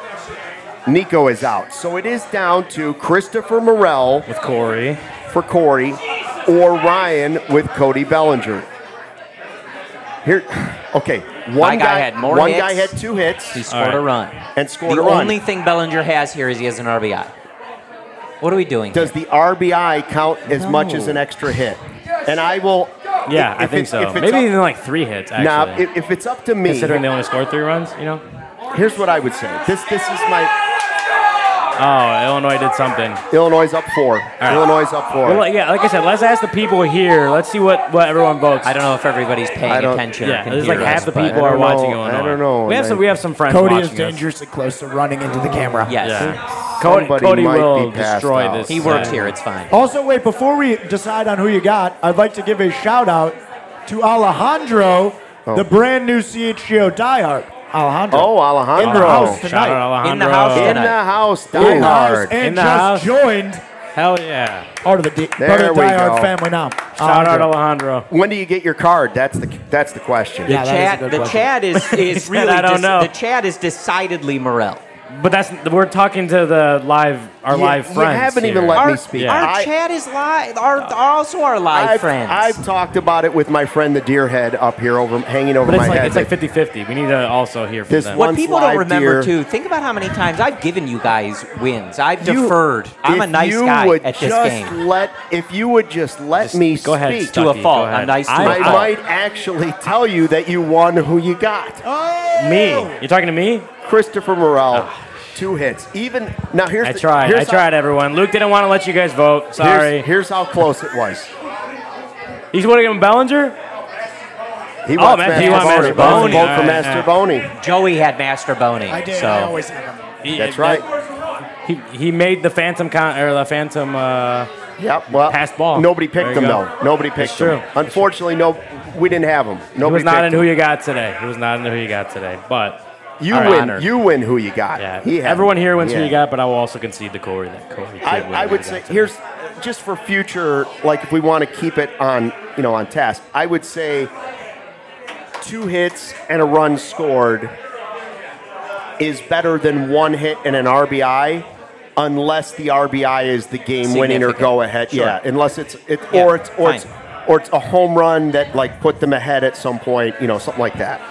Nico is out. So it is down to Christopher Morrell With Corey. for Corey or Ryan with Cody Bellinger. Here, okay. My guy had more One hits. guy had 2 hits He scored a run. and scored The a run. only thing Bellinger has here is he has an RBI. What are we doing? Does the RBI count as much as an extra hit? And I will. Yeah, I if think it's- so. if it's Maybe up- even like 3 hits. Actually, Now, if it's up to me, considering they only scored 3 runs, you know. here's what I would say. This is my Oh, Illinois did something. Illinois up 4. right. Illinois up 4. Well, like I said, let's ask the people here. Let's see what everyone votes. I don't know if everybody's paying I don't- attention. Yeah, or can there's hear like half us, the but- people I are don't watching know. Illinois. I don't know. We have some friends Cody watching is us. dangerously close to running into the camera. Yes. Yeah. Somebody Cody might will be passed destroy out. this. He works here. It's fine. Also, wait, before we decide on who you got, I'd like to give a shout out to Alejandro, the brand new CHGO diehard. Alejandro. Oh, Alejandro. In the house Shout tonight. out Alejandro. In the house In tonight. the house, In the house diehard. and In the just house. joined Hell yeah. part of the There part of the we diehard go. family now. Shout out Alejandro. When do you get your card? That's the question. Yeah, that is a good The question. chat is said, really. "I don't know." The chat is decidedly Morrell. But we're talking to the our live friends. You haven't even here. let me Our, speak. Yeah. our chat is live. Also our live friends. I've talked about it with my friend the deer head up here hanging over But my head. it's like 50-50. We need to also hear from This them. one- what people live don't remember deer. too. Think about how many times I've given you guys wins. I've You- deferred. I'm a if nice you guy would at this just game. If you would just let me Go ahead, speak, Stucky, To a fault. go ahead. I'm nice to I a fault. might actually tell you that you won who you got. Me? You're talking to me? Christopher Morrell, 2 hits. Even now, here's I tried, everyone. Luke didn't want to let you guys vote. Sorry. Here's how close it was. He's voting on Bellinger? He Oh, wants man, you want Master Master Boney. Boney. Vote All for right, Master yeah. Boney. Joey had Master Boney. I did. So I always have him. That's right. He made the Phantom Yep. Well, Passed ball. Nobody There picked you him go. though. Nobody picked That's him. true. Unfortunately, we didn't have him. He Nobody was not in picked who him. you got today. He was not in who you got today. But You all right, win. honored. You win who you got. Yeah. He had Everyone him. here wins Yeah. who you got, but I will also concede to Corey that Corey did win I who would he say got today. here's just for future, like if we want to keep it on task. I would say 2 hits and a run scored is better than 1 hit and an RBI, unless the RBI is the game winning or Significant. go ahead. Sure. Yeah, unless it's Yeah, or it's fine. a home run that like put them ahead at some point, something like that.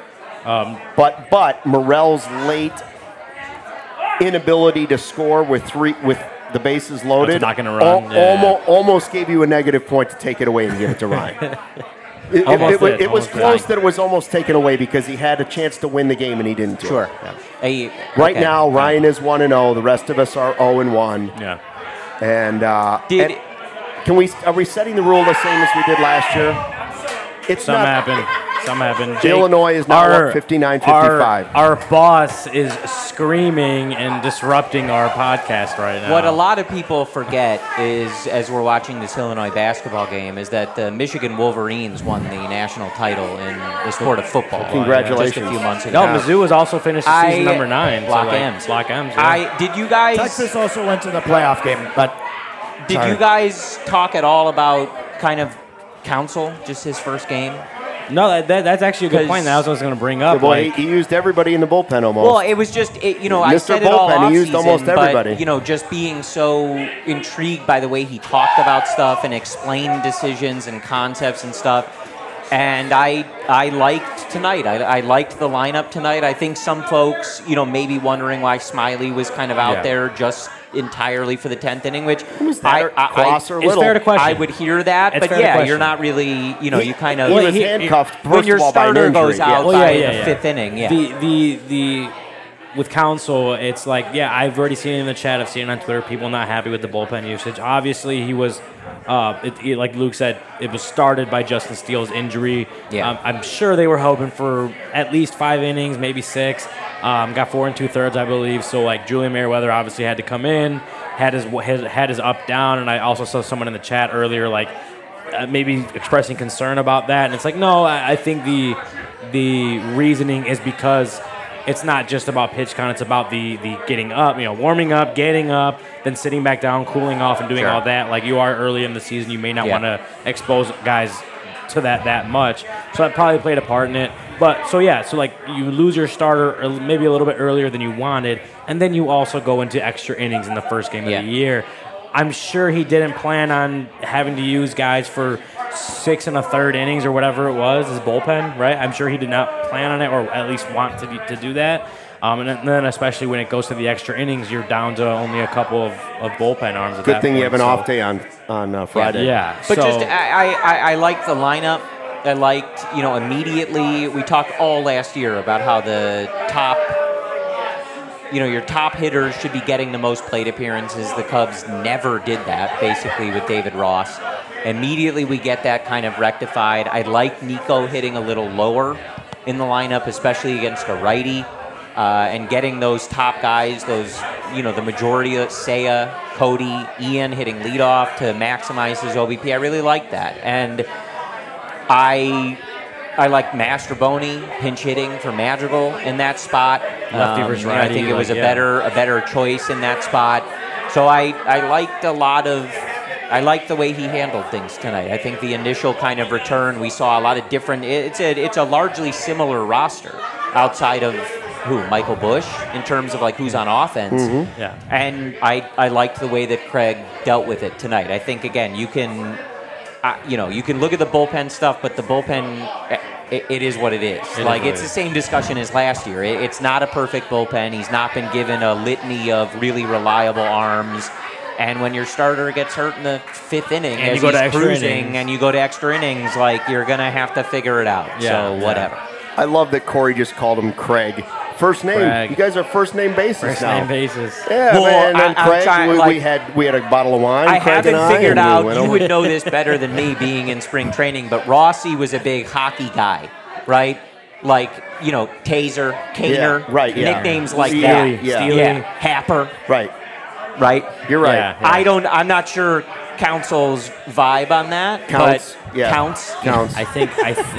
But Morrell's late inability to score with the bases loaded not gonna run, almost gave you a negative point to take it away and give it to Ryan. Almost did, It was almost close did. that it was almost taken away because he had a chance to win the game and he didn't do sure. it. Right Okay. now, Ryan is 1-0. The rest of us are 0-1. Yeah. And Did- are we setting the rule the same as we did last year? It's Something not. happened. Some happen. Illinois is now up 59-55. Our boss is screaming and disrupting our podcast right now. What a lot of people forget is, as we're watching this Illinois basketball game, is that the Michigan Wolverines won the national title in the sport of football. Congratulations. Just a few months ago. No, Mizzou has also finished season number 9. Block so M's. Block M's. Yeah. Did you guys? Texas also went to the playoff game, but Did you guys talk at all about kind of Council, just his first game? No, that's actually a good point. That was what I was going to bring up. Boy, he used everybody in the bullpen almost. Well, it was just, I Mr. said it all Bullpen, off he used almost everybody. But, just being so intrigued by the way he talked about stuff and explained decisions and concepts and stuff. And I liked tonight. I liked the lineup tonight. I think some folks, maybe wondering why Smiley was kind of out there just entirely for the 10th inning, which Cross or it's Little? fair to question. I would hear that, It's but fair to yeah, question. you're not really, you kind of He was handcuffed when first your of all by an starter injury. goes out Well, by yeah, the yeah. 5th inning. Yeah, The with Council, it's like, I've already seen it in the chat. I've seen it on Twitter. People not happy with the bullpen usage. Obviously, he was, like Luke said, it was started by Justin Steele's injury. Yeah. I'm sure they were hoping for at least 5 innings, maybe 6. Got 4 2/3, I believe. So like Julian Merriweather obviously had to come in, had his up down, and I also saw someone in the chat earlier like maybe expressing concern about that. And it's like, no, I think the reasoning is because it's not just about pitch count. It's about the getting up, warming up, getting up, then sitting back down, cooling off, and doing all that. Like you are early in the season, you may not want to expose guys to that much. So that probably played a part in it. But so like you lose your starter maybe a little bit earlier than you wanted, and then you also go into extra innings in the first game of the year. I'm sure he didn't plan on having to use guys for 6 1/3 innings or whatever it was, his bullpen, right? I'm sure he did not plan on it or at least want to do that. And then especially when it goes to the extra innings, you're down to only a couple of bullpen arms at Good that thing you point, have an so- off day on Friday. Yeah. but so, just I liked the lineup. I liked, immediately. We talked all last year about how the top. Your top hitters should be getting the most plate appearances. The Cubs never did that, basically, with David Ross. Immediately, we get that kind of rectified. I like Nico hitting a little lower in the lineup, especially against a righty, and getting those top guys, the majority of Seiya, Cody, Ian hitting leadoff to maximize his OBP. I really like that. And I like Mastroboni pinch hitting for Madrigal in that spot. Lefty versus I righty, think it was like, a better choice in that spot. So I liked I liked the way he handled things tonight. I think the initial kind of return, we saw a lot of different. It's a largely similar roster outside of Michael Bush in terms of like who's on offense. Mm-hmm. Yeah. And I liked the way that Craig dealt with it tonight. I think again you can. You can look at the bullpen stuff, but the bullpen, it is what it is. It's the same discussion as last year. It's not a perfect bullpen. He's not been given a litany of really reliable arms. And when your starter gets hurt in the 5th inning, And as you go to he's extra cruising, innings. and you go to extra innings, like you're gonna have to figure it out. Yeah, So whatever. I love that Corey just called him Craig. First name. Craig. You guys are first name basis First now. name basis. Yeah, Well, man. And then I'm Craig, trying, we had a bottle of wine. I Craig haven't and figured and we out. went You over- would know this better than me, being in spring training. But Rossi was a big hockey guy, right? Like Taser, Kaner, Yeah, right, yeah. nicknames like Steely, that. yeah. Yeah, Happer, Right. right? You're right. Yeah. I'm not sure Council's vibe on that. Counts, But yeah. counts. Counts. I think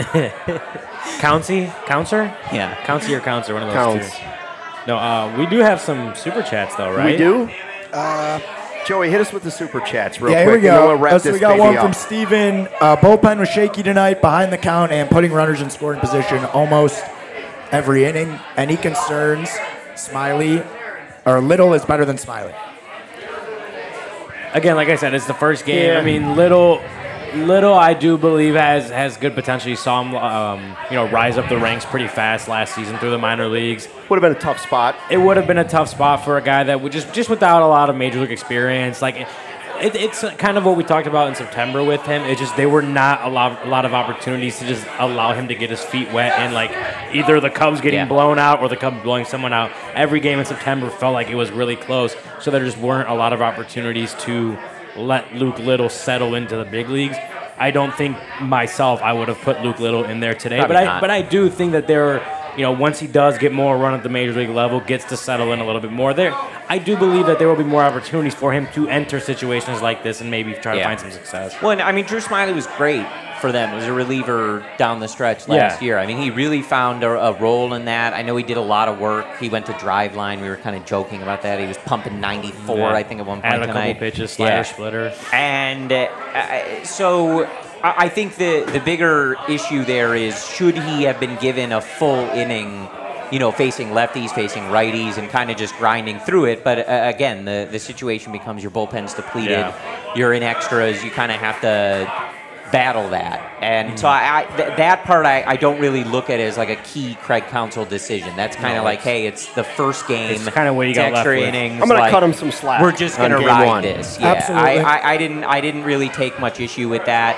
Countsy? Yeah. Countsy or Counts, one of those Counts. two. No, we do have some super chats though, right? We do? Joey, hit us with the super chats real yeah, quick. here we and then go. we'll wrap So this we got baby one up. from Steven. Bullpen was shaky tonight, behind the count and putting runners in scoring position almost every inning. Any concerns? Smiley or Little is better than Smiley. Again, like I said, it's the first game. Yeah. I mean, Little, I do believe has good potential. You saw him, rise up the ranks pretty fast last season through the minor leagues. Would have been a tough spot. It would have been a tough spot for a guy that would just without a lot of major league experience. Like it's kind of what we talked about in September with him. It's just they were not a lot of opportunities to just allow him to get his feet wet and like either the Cubs getting blown out or the Cubs blowing someone out. Every game in September felt like it was really close. So there just weren't a lot of opportunities to let Luke Little settle into the big leagues. I don't think myself I would have put Luke Little in there today. Probably not. But I do think that once he does get more run at the major league level, gets to settle in a little bit more there, I do believe that there will be more opportunities for him to enter situations like this and maybe try to find some success. Well, and, I mean, Drew Smyly was great for them as a reliever down the stretch last year. I mean, he really found a role in that. I know he did a lot of work. He went to Driveline. We were kind of joking about that. He was pumping 94, I think, at one point Added tonight. a couple pitches, slider, splitter. And so I think the bigger issue there is, should he have been given a full inning, facing lefties, facing righties, and kind of just grinding through it. But again, the situation becomes your bullpen's depleted. You're in extras. You kind of have to battle that. And so that part I don't really look at as like a key Craig Counsell decision. That's kind of like, hey, it's the first game. It's kind of what you got left with. Innings, I'm going to cut him some slack. We're just going to ride this. Yeah, Absolutely. I didn't really take much issue with that.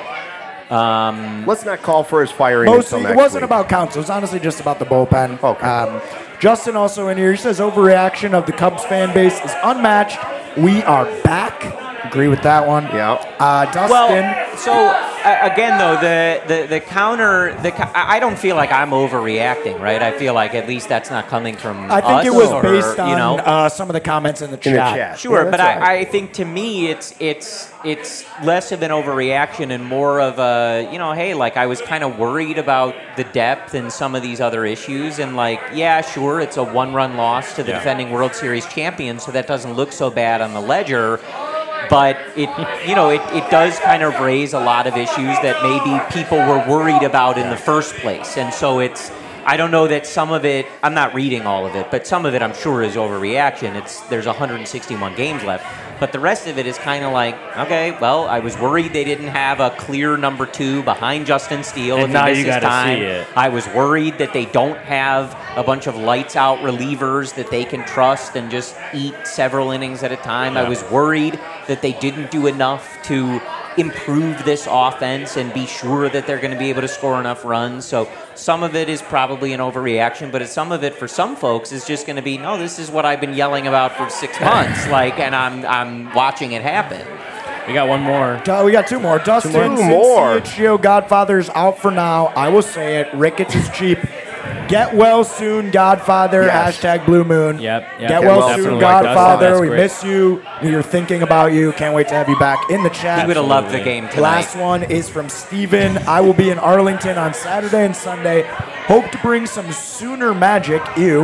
Let's not call for his firing Mostly, until it next wasn't week. about Counsell. It was honestly just about the bullpen. Okay. Justin also in here, he says overreaction of the Cubs fan base is unmatched. We are back. Agree with that one. Yeah. Dustin. Well, so again, though, the counter, I don't feel like I'm overreacting, right? I feel like at least that's not coming from I think us, it was or, based on some of the comments in the chat. In the chat. Sure, Yeah, but that's right. I think to me it's less of an overreaction and more of a, hey, like I was kind of worried about the depth and some of these other issues, and like, yeah, sure, it's a one-run loss to the defending World Series champions, so that doesn't look so bad on the ledger. But it does kind of raise a lot of issues that maybe people were worried about in the first place. And so I don't know that some of it, I'm not reading all of it, but some of it I'm sure is overreaction. There's 161 games left. But the rest of it is kind of like, okay, well, I was worried they didn't have a clear number 2 behind Justin Steele. And if now he you misses gotta time. see it. I was worried that they don't have a bunch of lights-out relievers that they can trust and just eat several innings at a time. I was worried that they didn't do enough to improve this offense and be sure that they're going to be able to score enough runs. So some of it is probably an overreaction, but some of it for some folks is just going to be, no, this is what I've been yelling about for 6 months, and I'm watching it happen. We got one more. We got 2 more. Dustin, Two since more. CHGO Godfather's out for now, I will say it. Ricketts is cheap. Get well soon, Godfather. Yes. Hashtag Blue Moon. Yep. Get well definitely. soon, Dustin, Godfather. that's We great. miss you. We are thinking about you. Can't wait to have you back in the chat. He would have loved the game tonight. Last one is from Steven. I will be in Arlington on Saturday and Sunday. Hope to bring some Sooner magic,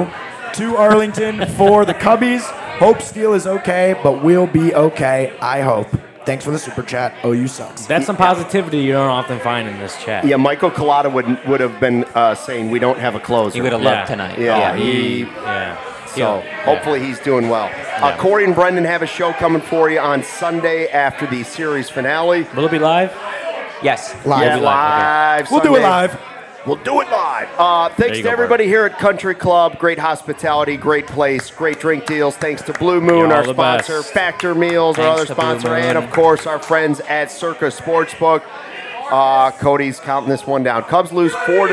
to Arlington for the Cubbies. Hope Steele is okay, but we'll be okay, I hope. Thanks for the super chat. OU sucks. That's some positivity you don't often find in this chat. Yeah, Michael Collada would have been saying we don't have a closer. He would have loved tonight. Yeah, So Yeah. hopefully he's doing well. Corey and Brendan have a show coming for you on Sunday after the series finale. Will it be live? Yes. Live. Yeah, live, live. We'll do it Sunday. live. We'll do it live. Thanks you to go, everybody here at Country Club. Great hospitality, great place, great drink deals. Thanks to Blue Moon, You're our all the sponsor, best. Factor Meals, our Thanks other to Blue sponsor, Moon. and of course our friends at Circa Sportsbook. Cody's counting this one down. Cubs lose 4-.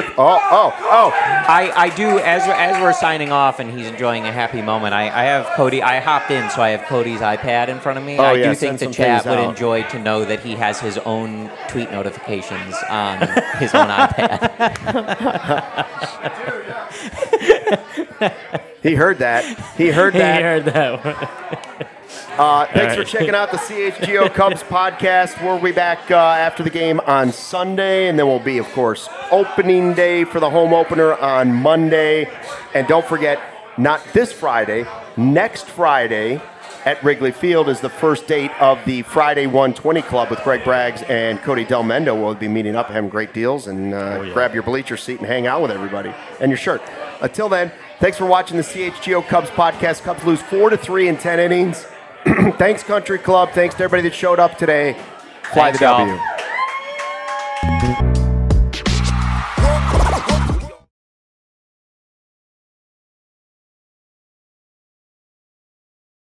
I do, as we're signing off and he's enjoying a happy moment, I have Cody, I hopped in, so I have Cody's iPad in front of me. Oh, I yeah, do send think the some chat things would out. enjoy to know that he has his own tweet notifications on his own iPad. He heard that. He heard He that. heard that one. Thanks for checking out the CHGO Cubs podcast. We'll be back after the game on Sunday, and then we'll be, of course, opening day for the home opener on Monday. And don't forget, not this Friday, next Friday at Wrigley Field is the first date of the Friday 120 Club with Greg Braggs and Cody Del Mendo. We'll be meeting up, having great deals, and grab your bleacher seat and hang out with everybody and your shirt. Until then, thanks for watching the CHGO Cubs podcast. Cubs lose 4-3 in 10 innings. Thanks, Country Club. Thanks to everybody that showed up today. Fly Thanks, the y'all. W.